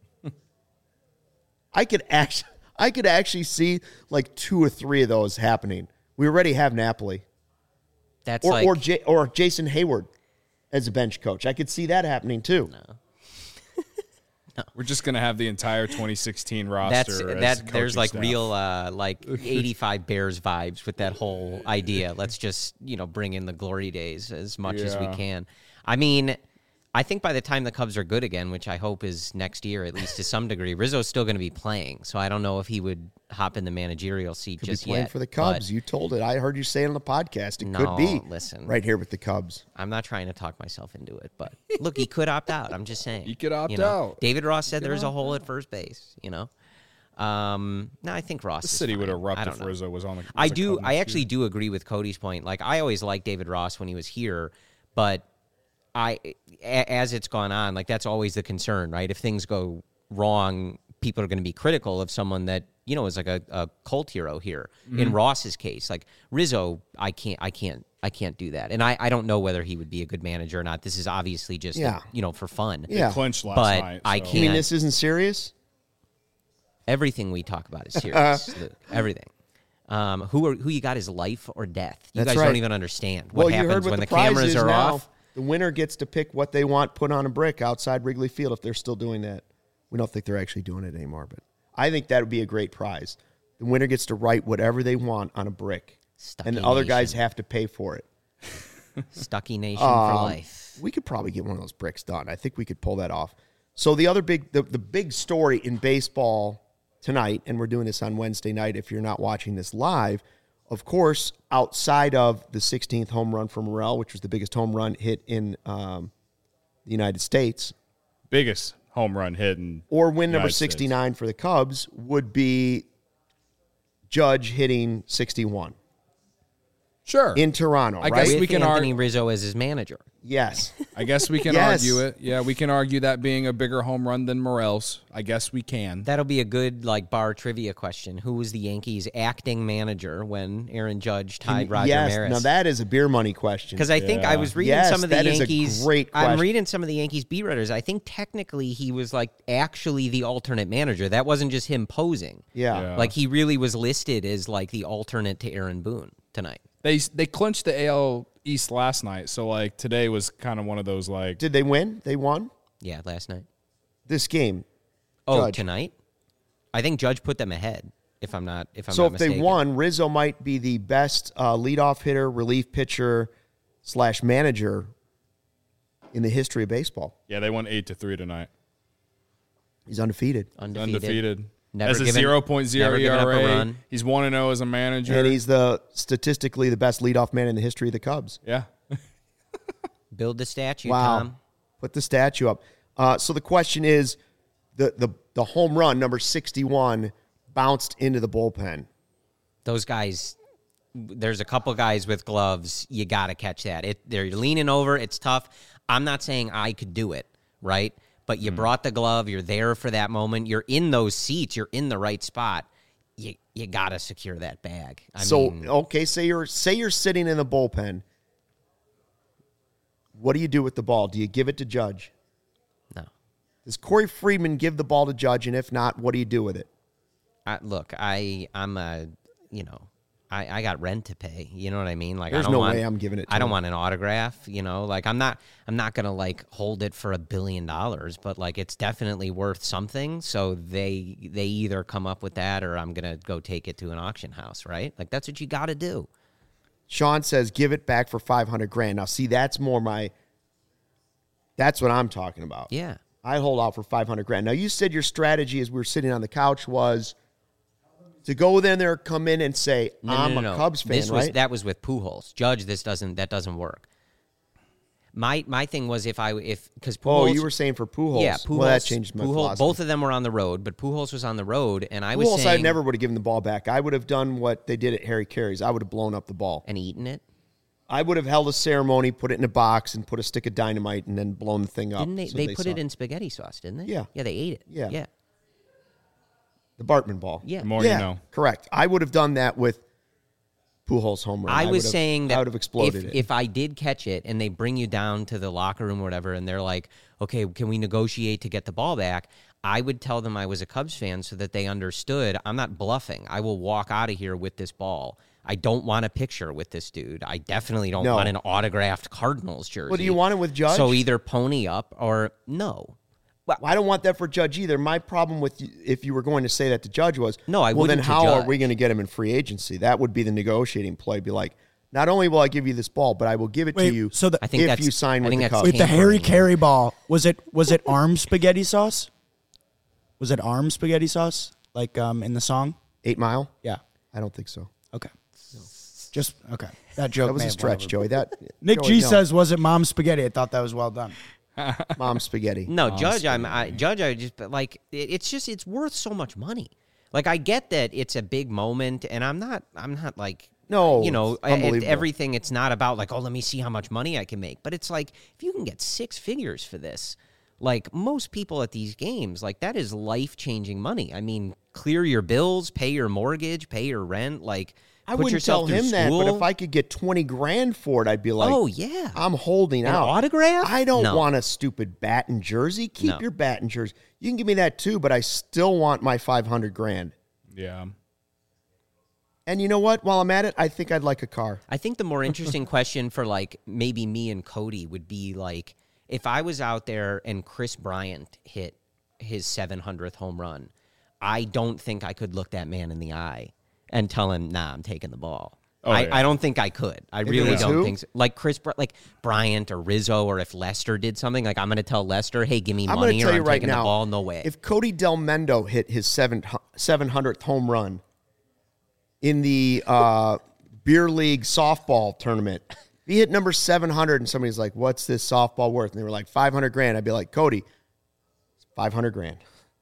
I could actually see like 2 or 3 of those happening. We already have Napoli. That's Or Jason Hayward as a bench coach. I could see that happening too. We're just gonna have the entire 2016 roster. as the there's coaching like staff. real like 85 Bears vibes with that whole idea. Let's just bring in the glory days as much as we Yeah. can. I mean, I think by the time the Cubs are good again, which I hope is next year at least to some degree, Rizzo's still going to be playing. So I don't know if he would hop in the managerial seat Could just be playing yet. for the but Cubs. You told it. I heard you say it on the podcast. It No, could be listen. right here with the Cubs. I'm not trying to talk myself into it, but look, he could opt out. I'm just saying. He could opt out. David Ross said there's a hole at first base, No, I think Ross The is city fine. would I erupt don't if know. Rizzo was on the. I was a do. Cub I next actually year. do agree with Cody's point. Like I always liked David Ross when he was here, but as it's gone on, like that's always the concern, right? If things go wrong people are going to be critical of someone that, you know, is like a cult hero here. In Ross's case, like Rizzo, I can't do that. And I don't know whether he would be a good manager or not. This is obviously just, you know, for fun. Yeah. Clinched last But night. I so. can't. You mean this isn't serious? Everything we talk about is serious, Luke. Everything. Who you got is life or death. You That's guys don't right. even understand what You heard happens what when the the prize cameras is are now. off. The winner gets to pick what they want put on a brick outside Wrigley Field if they're still doing that. We don't think they're actually doing it anymore, but I think that would be a great prize. The winner gets to write whatever they want on a brick, Stucky and the other Nation. guys have to pay for it. Stucky Nation for life. We could probably get one of those bricks done. I think we could pull that off. So the other the big story in baseball tonight, and we're doing this on Wednesday night if you're not watching this live, of course, outside of the 16th home run for Morel, which was the biggest home run hit in the United States, Biggest home run hit in or win number United States. 69 for the Cubs, would be Judge hitting 61 Sure. in Toronto, I right? guess With we can Anthony Rizzo as his manager. Yes. I guess we can Yes. argue it. Yeah, we can argue that being a bigger home run than Morel's. I guess we can. That'll be a good like bar trivia question. Who was the Yankees' acting manager when Aaron Judge tied Roger yes. Maris? Now that is a beer money question. Because I think I was reading Yes, some of the that is a Yankees. great I'm question. reading some of the Yankees beat writers. I think technically he was like actually the alternate manager. That wasn't just him posing. Yeah. Like he really was listed as like the alternate to Aaron Boone tonight. They clinched the AL East last night, so like today was kind of one of those like Did they win? They won Yeah, last night. this game. Oh, Judge. tonight? I think Judge put them ahead. If I'm not So if mistaken. they won, Rizzo might be the best leadoff hitter, relief pitcher / manager in the history of baseball. yeah, they won 8-3 tonight. He's undefeated. Undefeated. Never As a given- 0.0 never given up a ERA, run. he's 1-0 as a manager. And he's statistically the best leadoff man in the history of the Cubs. yeah. Build the statue, Wow. Tom. Put the statue up. So the question is, the home run, number 61, bounced into the bullpen. Those guys, there's a couple guys with gloves. You got to catch that. They're leaning over. It's tough. I'm not saying I could do it, right? But you brought the glove. You're there for that moment. You're in those seats. You're in the right spot. You got to secure that bag. I mean, Okay, say you're sitting in the bullpen. What do you do with the ball? Do you give it to Judge? no. Does Corey Friedman give the ball to Judge? And if not, what do you do with it? I got rent to pay. You know what I mean? Like There's I don't no want, way I'm giving it to I don't him. want an autograph. You know, like I'm not gonna like hold it for $1 billion, but like it's definitely worth something. So they either come up with that or I'm gonna go take it to an auction house, right? Like that's what you got to do. Sean says, give it back for $500,000. Now, see, that's what I'm talking about. Yeah. I hold out for $500,000. Now, you said your strategy as we were sitting on the couch was to go in there, come in and say, I'm a Cubs fan, right? That was with Pujols. Judge, that doesn't work. My thing was because Pujols. Oh, you were saying for Pujols. Yeah, Pujols. Well, that changed my philosophy. Both of them were on the road, but Pujols was on the road, and I was Pujols, saying I never would have given the ball back. I would have done what they did at Harry Carey's. I would have blown up the ball. and eaten it. I would have held a ceremony, put it in a box, and put a stick of dynamite, and then blown the thing up. Didn't they? so They put saw it in spaghetti sauce, didn't they? Yeah. Yeah, they ate it. Yeah. Yeah. the Bartman ball. Yeah. The more yeah, you know. correct. I would have done that with Pujols home run. I was would have- saying I that would have exploded it. if I did catch it and they bring you down to the locker room or whatever, and they're like, okay, can we negotiate to get the ball back? I would tell them I was a Cubs fan so that they understood I'm not bluffing. I will walk out of here with this ball. I don't want a picture with this dude. I definitely don't No. want an autographed Cardinals jersey. Well, do you want it with Judge? So either pony up or no. I don't want that for Judge either. My problem with if you were going to say that to Judge was, No, I well, then wouldn't to how are Judge. we going to get him in free agency? That would be the negotiating play. Be like, not only will I give you this ball, but I will give it Wait, to you so the- I think if that's you sign I with think the that's Cubs. With the Harry tampering. Carey ball, was it arm spaghetti sauce? Was it arm spaghetti sauce like in the song? 8 Mile? Yeah. I don't think so. Okay. Just okay. That joke. That was may a have stretch, went Joey. That Nick Joey, G no. says, "Was it mom spaghetti?" I thought that was well done. Mom spaghetti. No, Judge. I just but like it's worth so much money. Like I get that it's a big moment, and I'm not like No, you know, it's unbelievable. everything. It's not about like, oh, let me see how much money I can make. But it's like if you can get 6 figures for this, like most people at these games, like that is life-changing money. I mean, clear your bills, pay your mortgage, pay your rent, like I put wouldn't yourself tell through him that, school. but if I could get 20 grand for it, I'd be like, oh yeah, I'm holding An out. autograph? I don't No. want a stupid bat and jersey. Keep No. your bat and jersey. You can give me that too, but I still want my 500 grand. Yeah. And you know what? While I'm at it, I think I'd like a car. I think the more interesting question for like maybe me and Cody would be like if I was out there and Chris Bryant hit his 700th home run, I don't think I could look that man in the eye and tell him, "Nah, I'm taking the ball." Oh, yeah. I don't think I could. I it really was don't who? think so. Like like Bryant or Rizzo, or if Lester did something, like I'm going to tell Lester, "Hey, give me I'm going money to or tell you I'm right taking the now, ball." No way. if Cody Del Mendo hit his 700th home run in the beer league softball tournament, if he hit number 700 and somebody's like, "What's this softball worth?" and they were like, 500 grand, I'd be like, "Cody, it's 500 grand.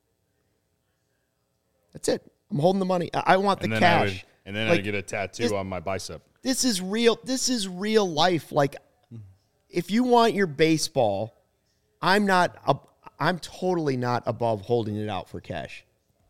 That's it. I'm holding the money. I want the cash." I'd get a tattoo on my bicep. This is real. This is real life. Like, if you want your baseball, I'm totally not above holding it out for cash.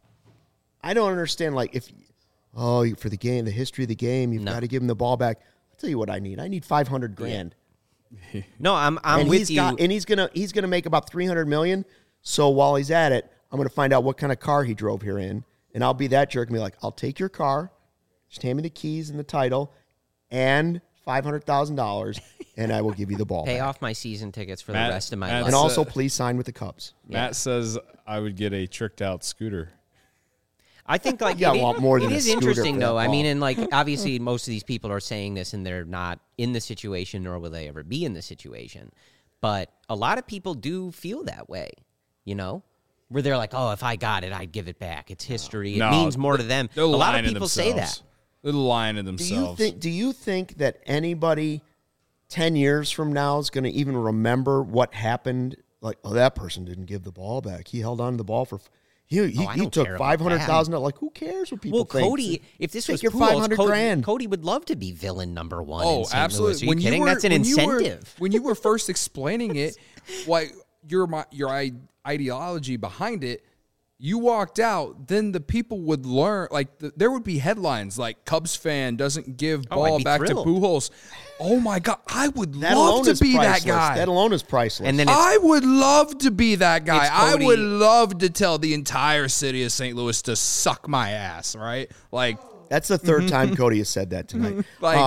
I don't understand. Like, for the game, the history of the game, you've got to give him the ball back. I'll tell you what I need. I need 500 grand. no, I'm And with you. he's gonna make about 300 million. So while he's at it, I'm gonna find out what kind of car he drove here in, and I'll be that jerk and be like, "I'll take your car, just hand me the keys and the title, and $500,000, and I will give you the ball Pay back. off my season tickets for Matt- the rest of my Matt- life. And also, please sign with the Cubs." Matt says I would get a tricked out scooter. I think like You got a lot more than it a is scooter interesting for that though. I ball. mean, and like obviously most of these people are saying this and they're not in the situation, nor will they ever be in the situation. But a lot of people do feel that way, you know, where they're like, "Oh, if I got it, I'd give it back. It's history. No, it means more to them." A They're lot lying of to people say that. themselves. They're lying to Do themselves. you think that anybody 10 years from now is going to even remember what happened? Like, "Oh, that person didn't give the ball back. He held on to the ball for." He I don't took care about $500,000. Like, who cares what people Well, think? Cody, if this Take was your Pujols, 500 grand. Cody would love to be villain number one. Oh, in St. absolutely. Louis. Are you kidding? That's an incentive. When you were first explaining it, like your ideology behind it, you walked out, then the people would learn. Like there would be headlines like "Cubs fan doesn't give I'd ball be back thrilled. to Pujols." Oh my God, I would That love alone to is be priceless. that guy. That alone is priceless. And then it's I would love to be that guy. It's I Cody- would love to tell the entire city of St. Louis to suck my ass, right? Like, that's the third time Cody has said that tonight.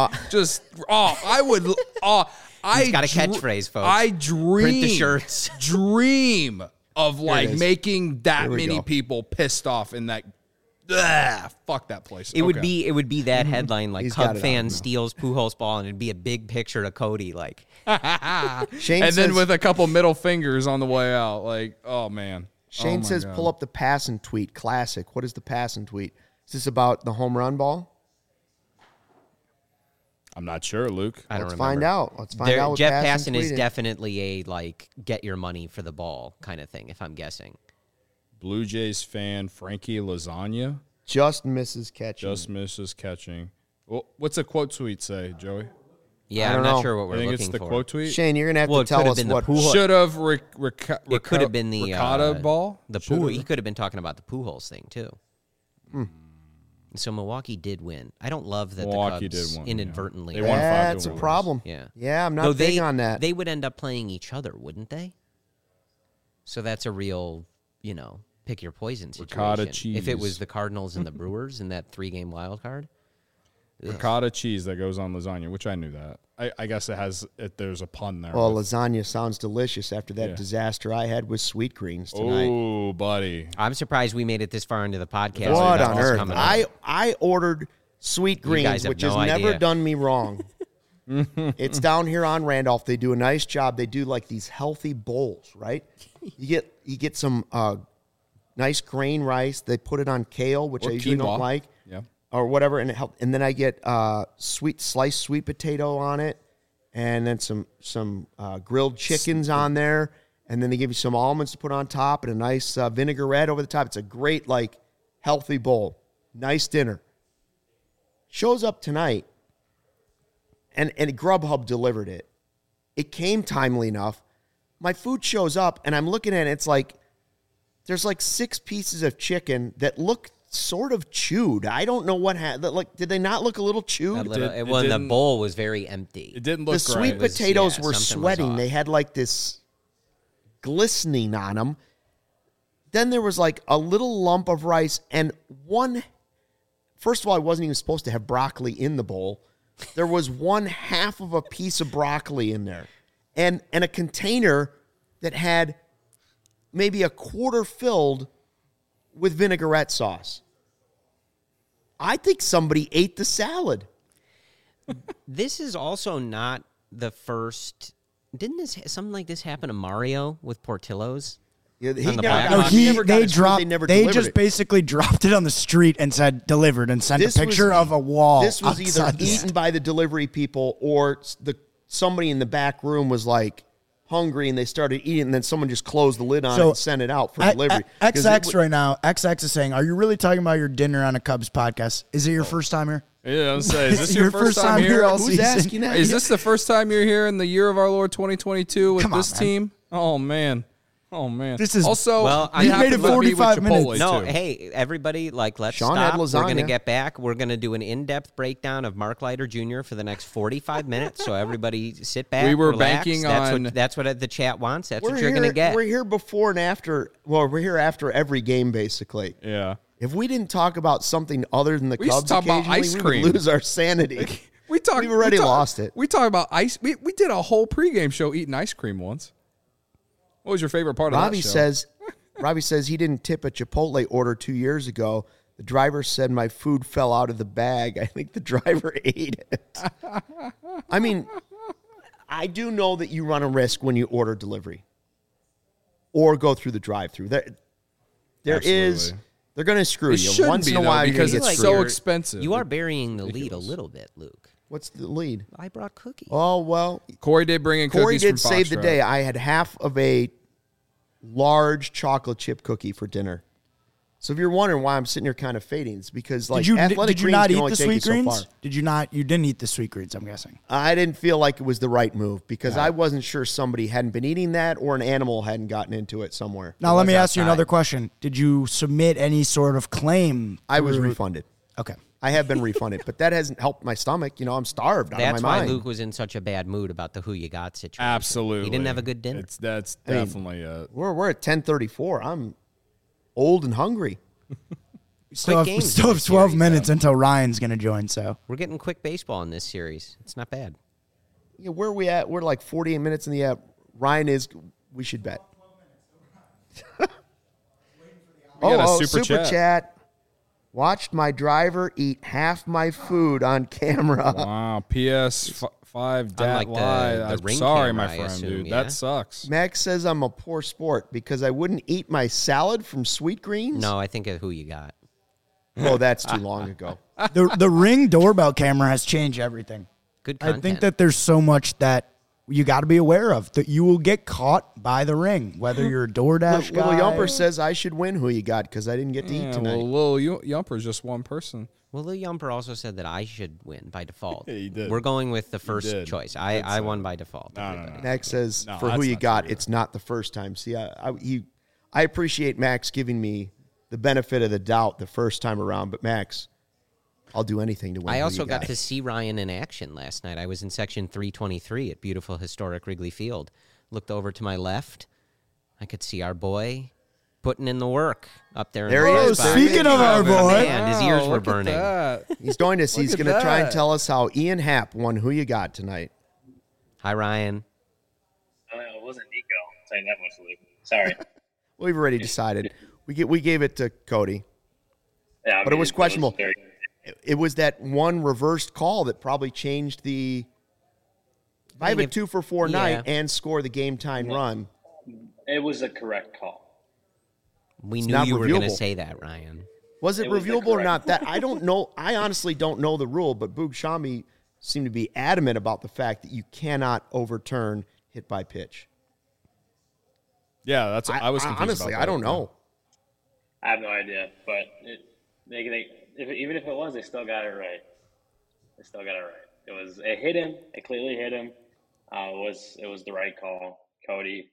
I would. He's got a catchphrase, folks. I dream. Print the shirts. Dream of like is. making that Here we many go. people pissed off in that. Fuck that place. It would be that headline like He's got Cub it fan on now. steals Pujols ball, and it'd be a big picture of Cody like Shane and then says, with a couple middle fingers on the way out, like, oh man. Shane Oh, my says, God. pull up the pass and tweet. Classic. What is the pass and tweet? Is this about the home run ball? I'm not sure, Luke. I don't Let's remember. find out. Let's find There- out. What Jeff pass Passan and is tweet definitely a like get your money for the ball kind of thing. If I'm guessing, Blue Jays fan Frankie Lasagna Just misses catching. just misses catching. Well, what's a quote tweet say, Joey? yeah, I I'm don't not know. sure what I we're think looking it's the for. quote tweet. Shane, you're gonna have Well, to it tell could have us been the what. Pujols. Should have. It could have been the ricotta ball. The Should Pujols. have. He could have been talking about the Pujols thing too. So Milwaukee did win. I don't love that Milwaukee the Cubs did win, inadvertently. yeah. They won 5-1. That's a problem. Yeah. I'm not Though big on that. They would end up playing each other, wouldn't they? So that's a real, pick your poison situation. Ricotta If it cheese. was the Cardinals and the Brewers in that 3-game wild card. Ricotta cheese that goes on lasagna, which I knew that. I guess there's a pun there. Well, with- lasagna sounds delicious after that Yeah. disaster I had with sweet greens tonight. oh, buddy. I'm surprised we made it this far into the podcast. What without on this earth? coming up. I ordered sweet guys greens, have which no has never idea. done me wrong. It's down here on Randolph. They do a nice job. They do like these healthy bowls, right? You get some nice grain rice. They put it on kale, which Or I usually quinoa. don't like, Yeah. or whatever, and it help. And then I get sliced sweet potato on it, and then some grilled chickens on there, and then they give you some almonds to put on top, and a nice vinaigrette over the top. It's a great healthy bowl. Nice dinner. Shows up tonight, and Grubhub delivered it. It came timely enough. I'm my food shows up, and I'm looking at it. It's like there's like 6 pieces of chicken that look sort of chewed. I don't know what happened. Like, did they not look a little chewed? The bowl was very empty. It didn't look The great. sweet potatoes were something was sweating. off. They had like this glistening on them. Then there was like a little lump of rice and one. First of all, I wasn't even supposed to have broccoli in the bowl. There was 1/2 of a piece of broccoli in there, and a container that had maybe a quarter filled with vinaigrette sauce. I think somebody ate the salad. This is also not the first. Didn't something like this happen to Mario with Portillo's? Yeah, he On the never back. got- No, he never got his food. They never They delivered just it. basically dropped it on the street and said delivered and sent This a picture was- of a wall. This was either outside the eaten by the delivery people or somebody in the back room was like hungry and they started eating, and then someone just closed the lid on it and sent it out for delivery. 'Cause XX it right now, XX is saying, are you really talking about your dinner on a Cubs podcast? Is it your first time here? Yeah, I'm saying, is this your first time here? all Who's season? asking that? Is this the first time you're here in the year of our Lord 2022 with Come on, this man. team? Oh man. This is- also. Well, you you have made to it let me with 45 Chipotle, minutes. No, too. hey, everybody, let's Sean had stop. We're going to lasagna. get back. We're going to do an in-depth breakdown of Mark Leiter Jr. for the next 45 minutes. So everybody sit back, We were relax. banking That's what the chat wants. That's we're what you're here- going to get. We're here before and after. Well, we're here after every game, basically. Yeah. If we didn't talk about something other than the We used to Cubs talk about occasionally, ice we cream. would lose our sanity. We've already lost it. We talked about ice. We did a whole pregame show eating ice cream once. What was your favorite part of Robbie that show? Robbie says he didn't tip a Chipotle order 2 years ago. The driver said my food fell out of the bag. I think the driver ate it. I mean, I do know that you run a risk when you order delivery or go through the drive-through. There is. Absolutely. They're going to screw It you shouldn't once be, in a though, while. because you're gonna it's get so screwed. expensive. You are burying the lead a Ridiculous. little bit, Luke. What's the lead? I brought cookies. Oh well, Corey did bring in Corey cookies did from save the Foxtrot. day. I had half of a large chocolate chip cookie for dinner. So if you're wondering why I'm sitting here kind of fading, it's because like athletic did you greens not can eat only the take you sweet so greens? far. Did you not? You didn't eat the sweet greens, I'm guessing. I didn't feel like it was the right move because I wasn't sure somebody hadn't been eating that or an animal hadn't gotten into it somewhere. Now, let me ask you outside. another question. Did you submit any sort of claim? I was through- refunded. Okay. I have been refunded, but that hasn't helped my stomach. You know, I'm starved out That's of my why mind. Luke was in such a bad mood about the who you got situation. Absolutely. He didn't have a good dinner. That's I mean, definitely a. We're at 10:34. I'm old and hungry. We still have games 12 in this series, minutes until Ryan's going to join, so. We're getting quick baseball in this series. It's not bad. Yeah, where are we at? We're like 48 minutes in the app. Ryan is. We should bet. got a super chat. Watched my driver eat half my food on camera. Wow. PS5 dat Unlike the lie. I'm ring sorry, camera, my I friend, assume, dude. yeah? That sucks. Max says I'm a poor sport because I wouldn't eat my salad from Sweet Greens. No, I think of who you got. Oh, that's too long ago. The Ring doorbell camera has changed everything. Good I content. think that there's so much that you got to be aware of, that you will get caught by the Ring, whether you're a DoorDash Little guy. Yumper says I should win who you got because I didn't get to eat Yeah, tonight. well, Lil Yumper's just one person. Well, Lil Yumper also said that I should win by default. Yeah, he did. We're going with the first did. choice. I won by default. No. Max says No, for who that's you not got, true. it's not the first time. See, I appreciate Max giving me the benefit of the doubt the first time around, but Max, I'll do anything to win. I who also you got to see Ryan in action last night. I was in section 323 at beautiful historic Wrigley Field. Looked over to my left. I could see our boy putting in the work up there. There in he the is. spot. Speaking of our boy. Man, his ears were Look at burning. that. He's joined us. He's Look at going to try and that. tell us how Ian Happ won who you got tonight. Hi, Ryan. It wasn't Nico. I'll tell you that much, Luke. Sorry. We've already decided. We gave it to Cody. Yeah, I But it mean, was questionable. very- It was that one reversed call that probably changed the. If I have a if- 2 for 4 yeah. night and score the game time run, It was a correct call. We It's knew not you were going to reviewable. say that, Ryan. was it It was the reviewable or correct- not? That I don't know. I honestly don't know the rule, but Boog Shami seemed to be adamant about the fact that you cannot overturn hit by pitch. Yeah, that's. I was confused honestly, about I that. don't know. I have no idea, but even if it was, they still got it right. They still got it right. It hit him. It clearly hit him. It was the right call. Cody,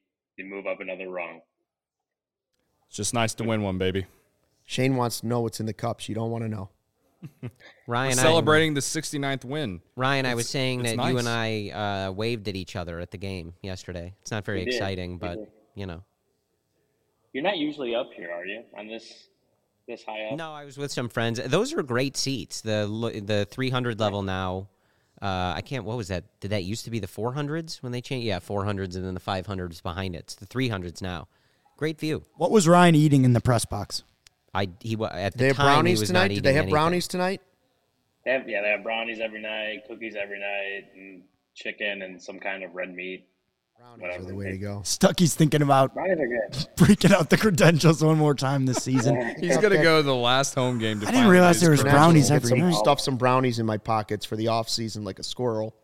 you move up another rung. It's just nice to win one, baby. Shane wants to know what's in the cups. You don't want to know. Ryan, Celebrating the 69th win. Ryan, I was saying that nice. you and I waved at each other at the game yesterday. It's not very We did. exciting, We but did. you know. You're not usually up here, are you? On this high up? No, I was with some friends. Those are great seats. The 300 level now. I can't. What was that? Did that used to be the 400s when they changed? Yeah, 400s and then the 500s behind it. It's the 300s now. Great view. What was Ryan eating in the press box? At the They have time, he brownies was tonight? not Did eating they have anything. brownies tonight? They have brownies every night, cookies every night, and chicken and some kind of red meat. Brownies are the way to go. Stucky's thinking about Brownies are good. breaking out the credentials one more time this season. He's going to go to the last home game to I didn't finally realize get there his was credentials. brownies every night. Stuff some brownies in my pockets for the off season like a squirrel.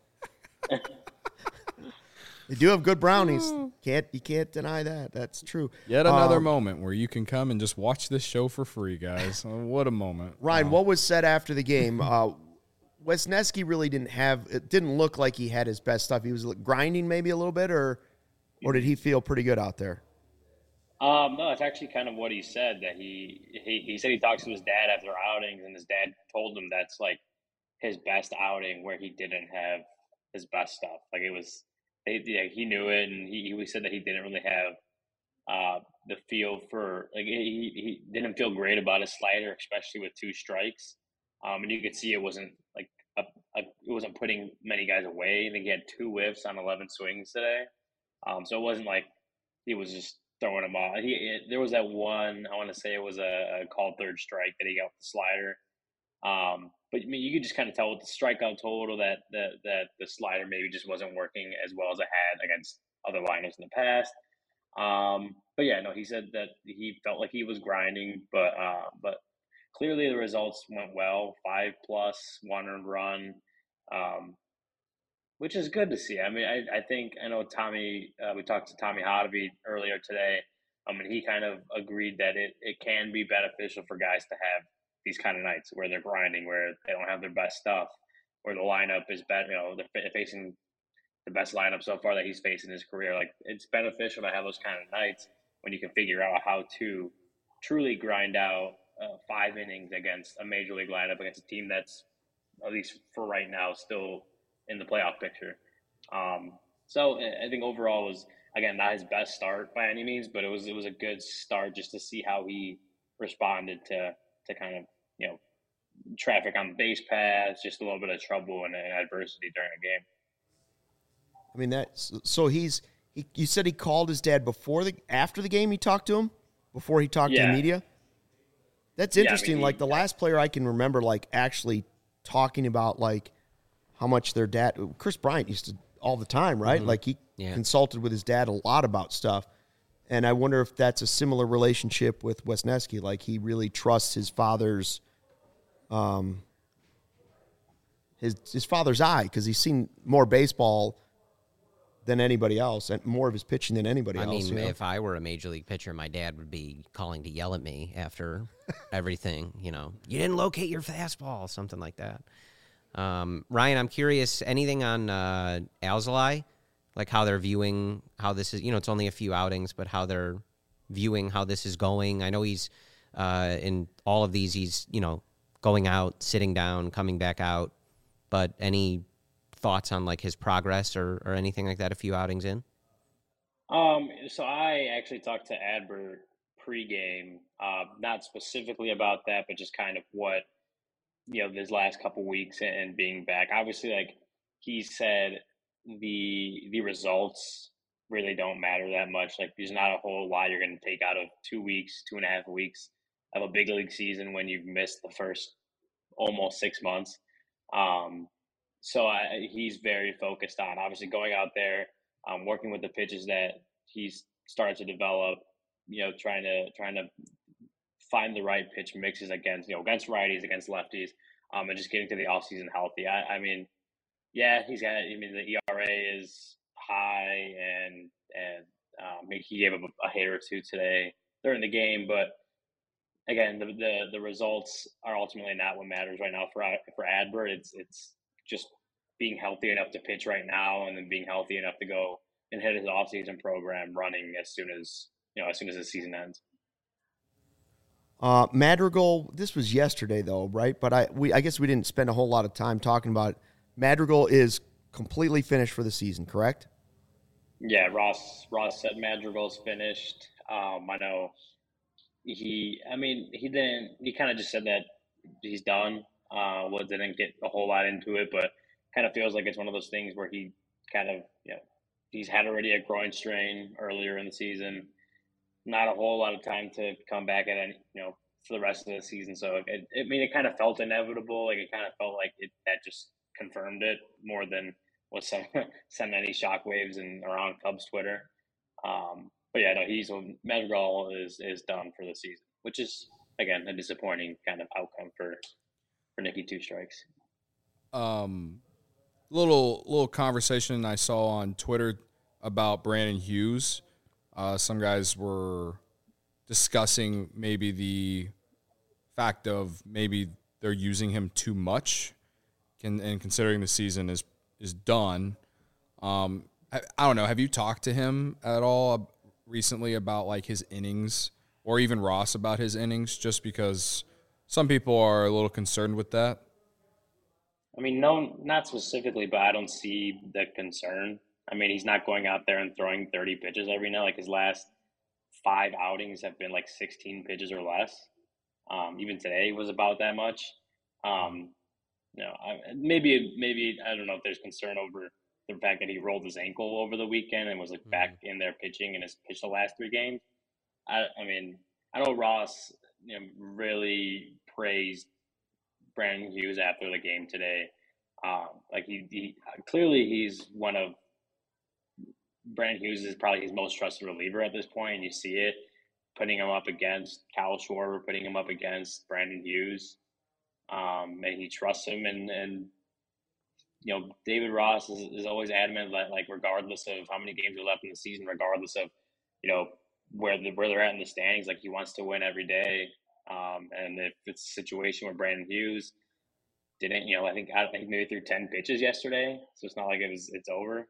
They do have good brownies. You can't deny that. That's true. Yet another moment where you can come and just watch this show for free, guys. What a moment. Ryan, what was said after the game? Wisniewski really didn't look like he had his best stuff. He was grinding maybe a little bit, or did he feel pretty good out there? No, it's actually kind of what he said, that he said he talks to his dad after outings, and his dad told him that's like his best outing where he didn't have his best stuff. Like it was, he knew it, and he said that he didn't really have the feel for, like he didn't feel great about his slider, especially with two strikes. And you could see it wasn't like it wasn't putting many guys away. I think he had 2 whiffs on 11 swings today. So it wasn't like he was just throwing them off. There was that one, I want to say it was a called third strike that he got with the slider. But I mean, you could just kind of tell with the strikeout total that the slider maybe just wasn't working as well as it had against other lineups in the past. But yeah, no, he said that he felt like he was grinding, but clearly the results went well. 5+, 1 earned run, which is good to see. I mean, I know Tommy. We talked to Tommy Hotovy earlier today. And he kind of agreed that it can be beneficial for guys to have these kind of nights where they're grinding, where they don't have their best stuff, where the lineup is better. You know, they're facing the best lineup so far that he's faced in his career. Like, it's beneficial to have those kind of nights when you can figure out how to truly grind out 5 innings against a major league lineup, against a team that's, at least for right now, still in the playoff picture. So I think overall was, again, not his best start by any means, but it was a good start just to see how he responded to kind of, you know, traffic on the base paths, just a little bit of trouble and adversity during a game. I mean, you said he called his dad after the game. He talked to him before he talked to the media. That's interesting. I mean, the last player I can remember, like, actually talking about, like, how much their dad, Chris Bryant used to all the time, right? Mm-hmm. Like, he consulted with his dad a lot about stuff. And I wonder if that's a similar relationship with Wisniewski. Like, he really trusts his father's, his father's eye, because he's seen more baseball than anybody else, and more of his pitching than anybody else. I mean, if I were a major league pitcher, my dad would be calling to yell at me after everything. You know, you didn't locate your fastball, something like that. Ryan, I'm curious, anything on Alzolay? Like how they're viewing how this is, you know, it's only a few outings, but how they're viewing how this is going. I know he's in all of these, he's, you know, going out, sitting down, coming back out, but any thoughts on like his progress or anything like that a few outings in? So I actually talked to Adbert pregame, not specifically about that, but just kind of what, you know, this last couple weeks and being back. Obviously, like he said, the results really don't matter that much. Like, there's not a whole lot you're going to take out of 2 weeks, 2.5 weeks of a big league season when you've missed the first almost 6 months. So he's very focused on obviously going out there, working with the pitches that he's started to develop. You know, trying to find the right pitch mixes against righties, against lefties, and just getting to the offseason healthy. I mean, yeah, the ERA is high, and he gave up a hit or two today during the game, but again, the results are ultimately not what matters right now for Adbert. It's just being healthy enough to pitch right now, and then being healthy enough to go and hit his offseason program running as soon as the season ends. Madrigal, this was yesterday though, right? But I guess we didn't spend a whole lot of time talking about it. Madrigal is completely finished for the season, correct? Yeah, Ross said Madrigal's finished. I know he kind of just said that he's done. Didn't get a whole lot into it, but kind of feels like it's one of those things where he kind of, he's had already a groin strain earlier in the season. Not a whole lot of time to come back at any, for the rest of the season. So it kind of felt inevitable. Like it kind of felt like that just confirmed it more than was sent any shockwaves around Cubs Twitter. But yeah, no, Madrigal is done for the season, which is again a disappointing kind of outcome for Nicky Two Strikes. Little conversation I saw on Twitter about Brandon Hughes. Some guys were discussing maybe the fact of maybe they're using him too much, and considering the season is done. I don't know. Have you talked to him at all recently about like his innings, or even Ross about his innings? Just because some people are a little concerned with that. I mean, no, not specifically, but I don't see the concern. I mean, he's not going out there and throwing 30 pitches every night. Like his last 5 outings have been like 16 pitches or less. Even today was about that much. Maybe I don't know if there's concern over the fact that he rolled his ankle over the weekend and was like back in there pitching and has pitched the last 3 games. I mean, I know Ross, really praised Brandon Hughes after the game today. Like he clearly he's one of Brandon Hughes is probably his most trusted reliever at this point, and you see it, putting him up against Kyle Schwarber, putting him up against Brandon Hughes, and he trusts him. And David Ross is always adamant that, like, regardless of how many games are left in the season, regardless of where they're at in the standings, like he wants to win every day. And if it's a situation where Brandon Hughes didn't, I think maybe threw 10 pitches yesterday, so it's not like it's over.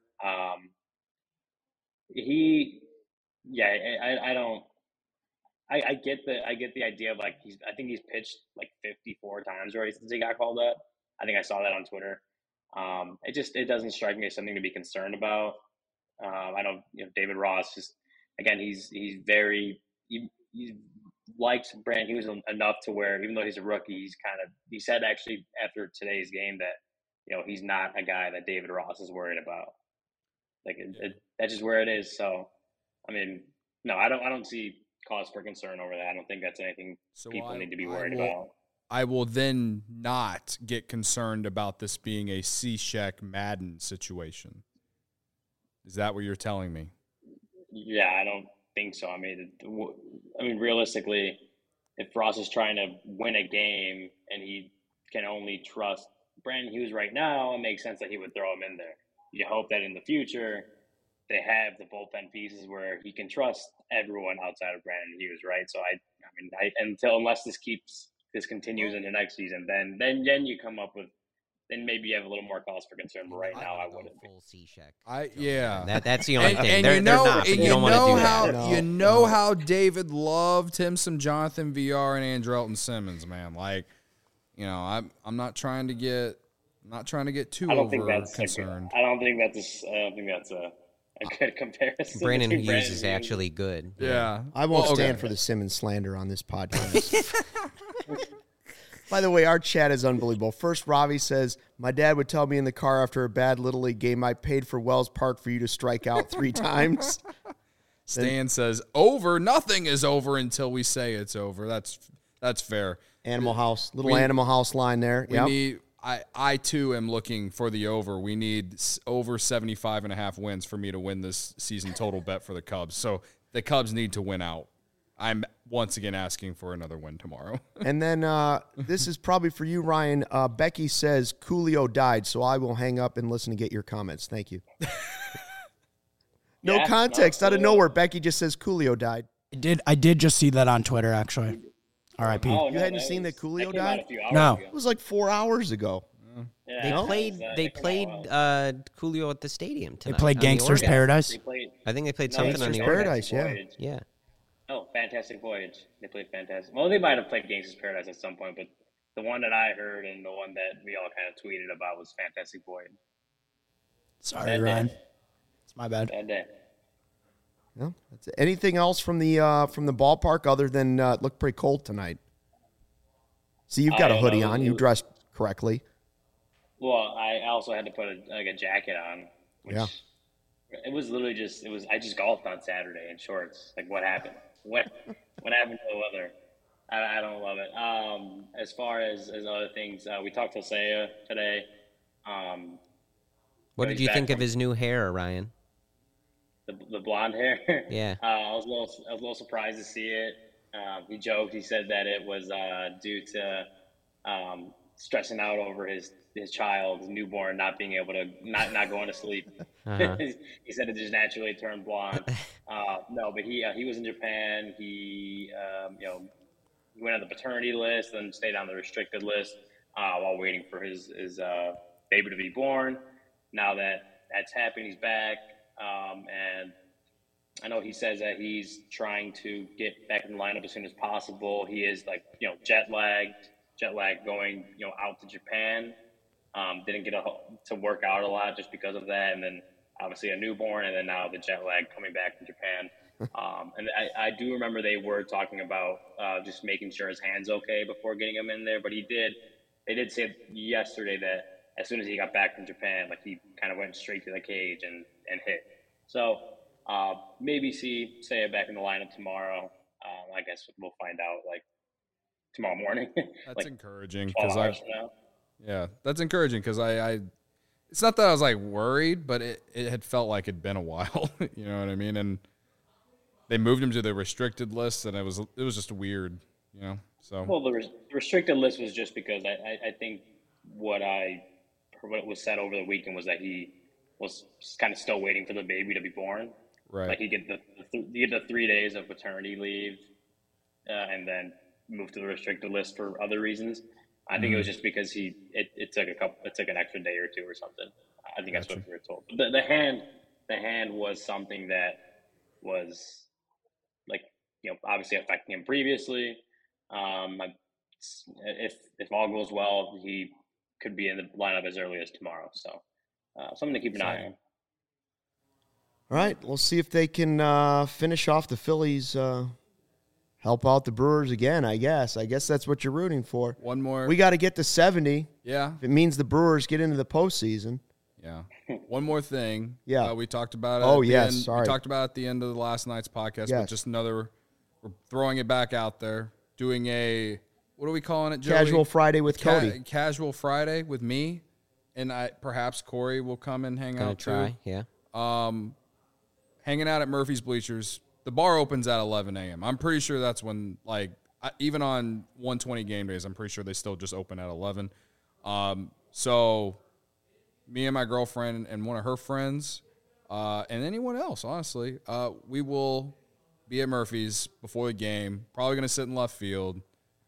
I get the idea of like I think he's pitched like 54 times already since he got called up. I think I saw that on Twitter. It doesn't strike me as something to be concerned about. I know David Ross just again he likes Brandon Hughes enough to where even though he's a rookie, he said actually after today's game that he's not a guy that David Ross is worried about. Like that's just where it is. So, I mean, no, I don't see cause for concern over that. I don't think that's anything people need to be worried about. I will then not get concerned about this being a Cishek Madden situation. Is that what you're telling me? Yeah, I don't think so. I mean, realistically, if Ross is trying to win a game and he can only trust Brandon Hughes right now, it makes sense that he would throw him in there. You hope that in the future they have the bullpen pieces where he can trust everyone outside of Brandon Hughes, right? So unless this continues into next season, then you come up with, then maybe you have a little more cause for concern. But right now, I wouldn't. Full C-check. That's the only thing. And they're not. But you don't want to do that. No. You know how David loved him some Jonathan VR and Andrelton Simmons, man. Like, I'm not trying to get too over concerned. I don't think that's a good comparison. Brandon Hughes is actually good. Yeah. I won't stand for the Simmons slander on this podcast. By the way, our chat is unbelievable. First, Ravi says, my dad would tell me in the car after a bad Little League game, I paid for Wells Park for you to strike out 3 times. Stan says, over. Nothing is over until we say it's over. That's fair. Animal House. Animal House line there. I too am looking for the over. We need over 75.5 wins for me to win this season total bet for the Cubs. So the Cubs need to win out. I'm once again asking for another win tomorrow. And then this is probably for you, Ryan. Becky says Coolio died, so I will hang up and listen to get your comments. Thank you. No context. Out of nowhere, Becky just says Coolio died. I did just see that on Twitter, actually. R.I.P. You hadn't seen that Coolio died? No. It was like 4 hours ago. Yeah, They No? played. that They came out played well. Coolio at the stadium They tonight. played on the Gangsters Oregon. Paradise. They played. I think they played No, something it's on the Gangsters Oregon. Paradise, yeah. Voyage. Yeah. Oh, Fantastic Voyage. They played Fantastic. Well, they might have played Gangsters Paradise at some point, but the one that I heard and the one that we all kind of tweeted about was Fantastic Voyage. Sorry, Bad Ryan. day. It's my bad. Bad day. Yeah, that's it. Anything else from the ballpark other than it looked pretty cold tonight? See, you've got I a don't hoodie know. on. You dressed correctly. Well, I also had to put a jacket on. Which Yeah. It was literally just it was. I just golfed on Saturday in shorts. Like what happened? What happened to the weather? I don't love it. As far as other things, we talked to Seiya today. What he's did you back think of from- his new hair, Ryan? The blonde hair. Yeah. I was a little surprised to see it. He joked. He said that it was due to stressing out over his child, his newborn, not being able to not going to sleep. Uh-huh. He said it just naturally turned blonde. No, but he was in Japan. He he went on the paternity list, then stayed on the restricted list while waiting for his baby to be born. Now that's happened, he's back, and I know he says that he's trying to get back in the lineup as soon as possible. He is jet lagged going out to Japan. Didn't get to work out a lot just because of that, and then obviously a newborn, and then now the jet lag coming back from Japan. And I do remember they were talking about just making sure his hand's okay before getting him in there. But they did say yesterday that as soon as he got back from Japan, like he kind of went straight to the cage and hit. So maybe see Seiya back in the lineup tomorrow. I guess we'll find out like tomorrow morning. That's like encouraging 12 because hours from now. yeah, that's encouraging because I it's not that I was like worried, but it had felt like it'd been a while. You know what I mean? And they moved him to the restricted list, and it was just weird, you know. So Well, the restricted list was just because I think what was said over the weekend was that he was kind of still waiting for the baby to be born. right, Like he get the 3 days of paternity leave, and then move to the restricted list for other reasons. I think it was just because it took an extra day or two or something. I think that's what we were told. But the hand was something that was like obviously affecting him previously. If all goes well, he could be in the lineup as early as tomorrow. So something to keep an eye on. All right, we'll see if they can finish off the Phillies, help out the Brewers again, I guess. I guess that's what you're rooting for. one more. We got to get to 70 yeah, if it means the Brewers get into the postseason. yeah. One more thing. Yeah. We talked about it. Oh, at the yes, end. sorry. We talked about it at the end of the last night's podcast, Yes. but just we're throwing it back out there, doing what are we calling it, Joey? Casual Friday with Cody. Casual Friday with me, and perhaps Corey will come and hang Gonna out try. too. Yeah. Hanging out at Murphy's Bleachers. The bar opens at 11 a.m. I'm pretty sure that's when, even on 120 game days, I'm pretty sure they still just open at 11. So me and my girlfriend and one of her friends, and anyone else, honestly, we will be at Murphy's before the game. Probably going to sit in left field.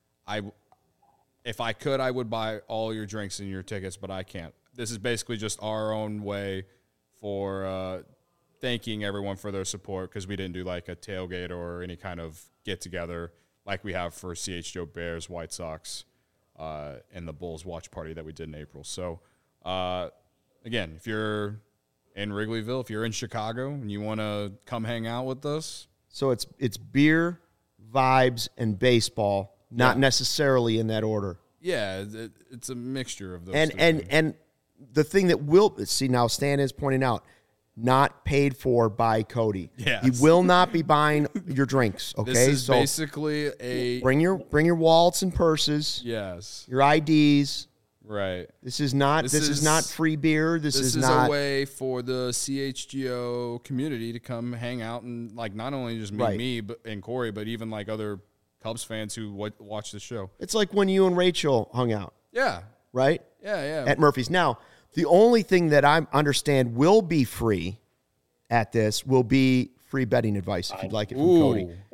If I could, I would buy all your drinks and your tickets, but I can't. This is basically just our own way for thanking everyone for their support because we didn't do like a tailgate or any kind of get-together like we have for CHGO Bears, White Sox, and the Bulls watch party that we did in April. So, again, if you're in Wrigleyville, if you're in Chicago and you want to come hang out with us. So it's beer, vibes, and baseball, not necessarily in that order. Yeah, it's a mixture of those. And the thing that will see now, Stan is pointing out, not paid for by Cody. Yes. He will not be buying your drinks. Okay, This is so basically a bring your wallets and purses, yes, your IDs. right. This is not free beer. This is not a way for the CHGO community to come hang out and not only just meet Right. me and Corey, but even other Cubs fans who watch the show. It's like when you and Rachel hung out, Yeah, right? yeah. At Murphy's. Now, the only thing that I understand will be free at this will be free betting advice if you'd like it from Cody.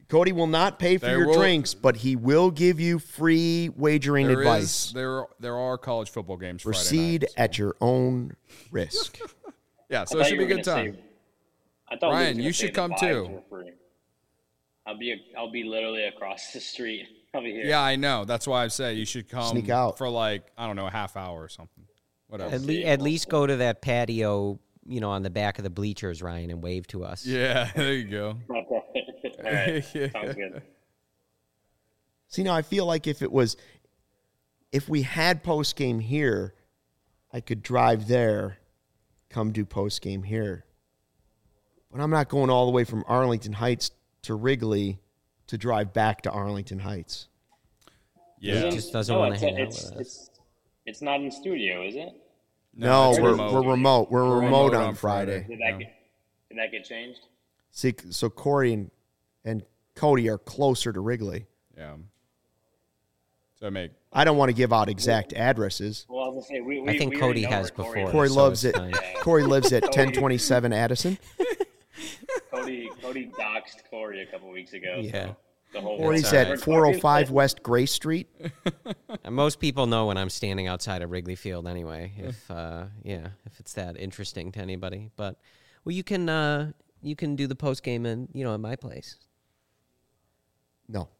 Cody will not pay for There your will- drinks, but he will give you free wagering advice. There are college football games Friday Proceed night, so- at your own risk. Yeah, so I it thought should you be a were good gonna time. say- I thought Luke was Ryan, gonna you say should the come vibes too. were free. I'll be literally across the street. I'll be here. Yeah, I know. That's why I say you should come Sneak out. for like, I don't know, a half hour or something. Whatever. At least go to that patio, on the back of the bleachers, Ryan, and wave to us. Yeah, there you go. All right. Sounds good. See, now I feel like if we had post game here, I could drive there, come do post game here. But I'm not going all the way from Arlington Heights to Wrigley to drive back to Arlington Heights. Yeah. Just doesn't want to hang out it's, with us. It's not in studio, is it? No, it's we're remote. remote. We're We're remote remote on on Friday. Friday. Did that get changed? See, so Corey and Cody are closer to Wrigley. Yeah. So I don't want to give out exact addresses. Well, I was gonna say we I think we Cody already know has where Corey before. Corey so loves it's it. fine. Corey lives at 1027 Addison. Cody doxed Corey a couple weeks ago. Yeah. So the whole Corey's all right. at 405 West Grace Street. And most people know when I'm standing outside of Wrigley Field anyway. If if it's that interesting to anybody, but you can do the post game in at my place. No.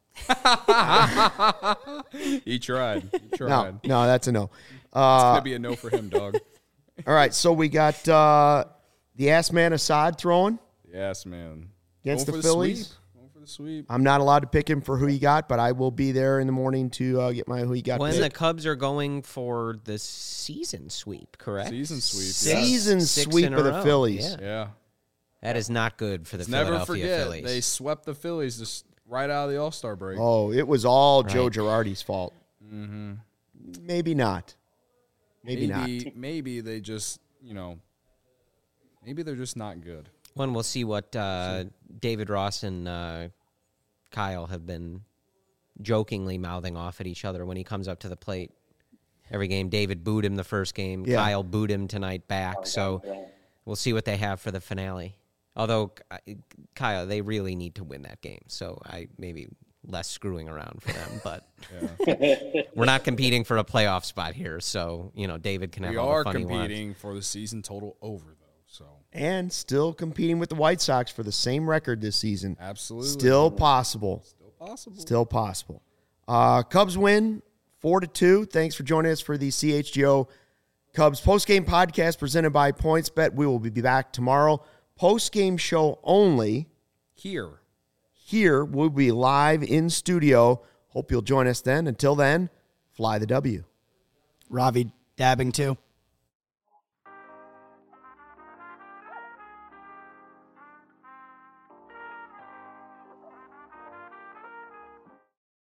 he tried. No, that's a no. It's gonna be a no for him, dog. All right, so we got the ass man Assad throwing Yes, man. against Going the for Phillies. sweep. Going for the sweep. I'm not allowed to pick him for who he got, but I will be there in the morning to get my who he got. When pick. the Cubs are going for the season sweep, correct? Season sweep. Six- yeah. Season six sweep in a of the row. Phillies. Yeah. Yeah. That is not good for the Never Philadelphia forget, Phillies. they swept the Phillies just right out of the All-Star break. Oh, it was all Joe Right. Girardi's fault. Mm-hmm. Maybe not. Maybe not. Maybe they just, maybe they're just not good. One, we'll see what David Ross and Kyle have been jokingly mouthing off at each other when he comes up to the plate. Every game, David booed him the first game. Yeah. Kyle booed him tonight back. So we'll see what they have for the finale. Although, Kyle, they really need to win that game. So I maybe less screwing around for them. But we're not competing for a playoff spot here. So, David can have We all are the fun he wants. competing for the season total over, though. So And still competing with the White Sox for the same record this season. absolutely, Still possible. Still possible. Still possible. Cubs win 4-2. Thanks for joining us for the CHGO Cubs postgame podcast presented by PointsBet. We will be back tomorrow. Postgame show only. Here. Here we'll be live in studio. Hope you'll join us then. Until then, fly the W. Ravi dabbing too.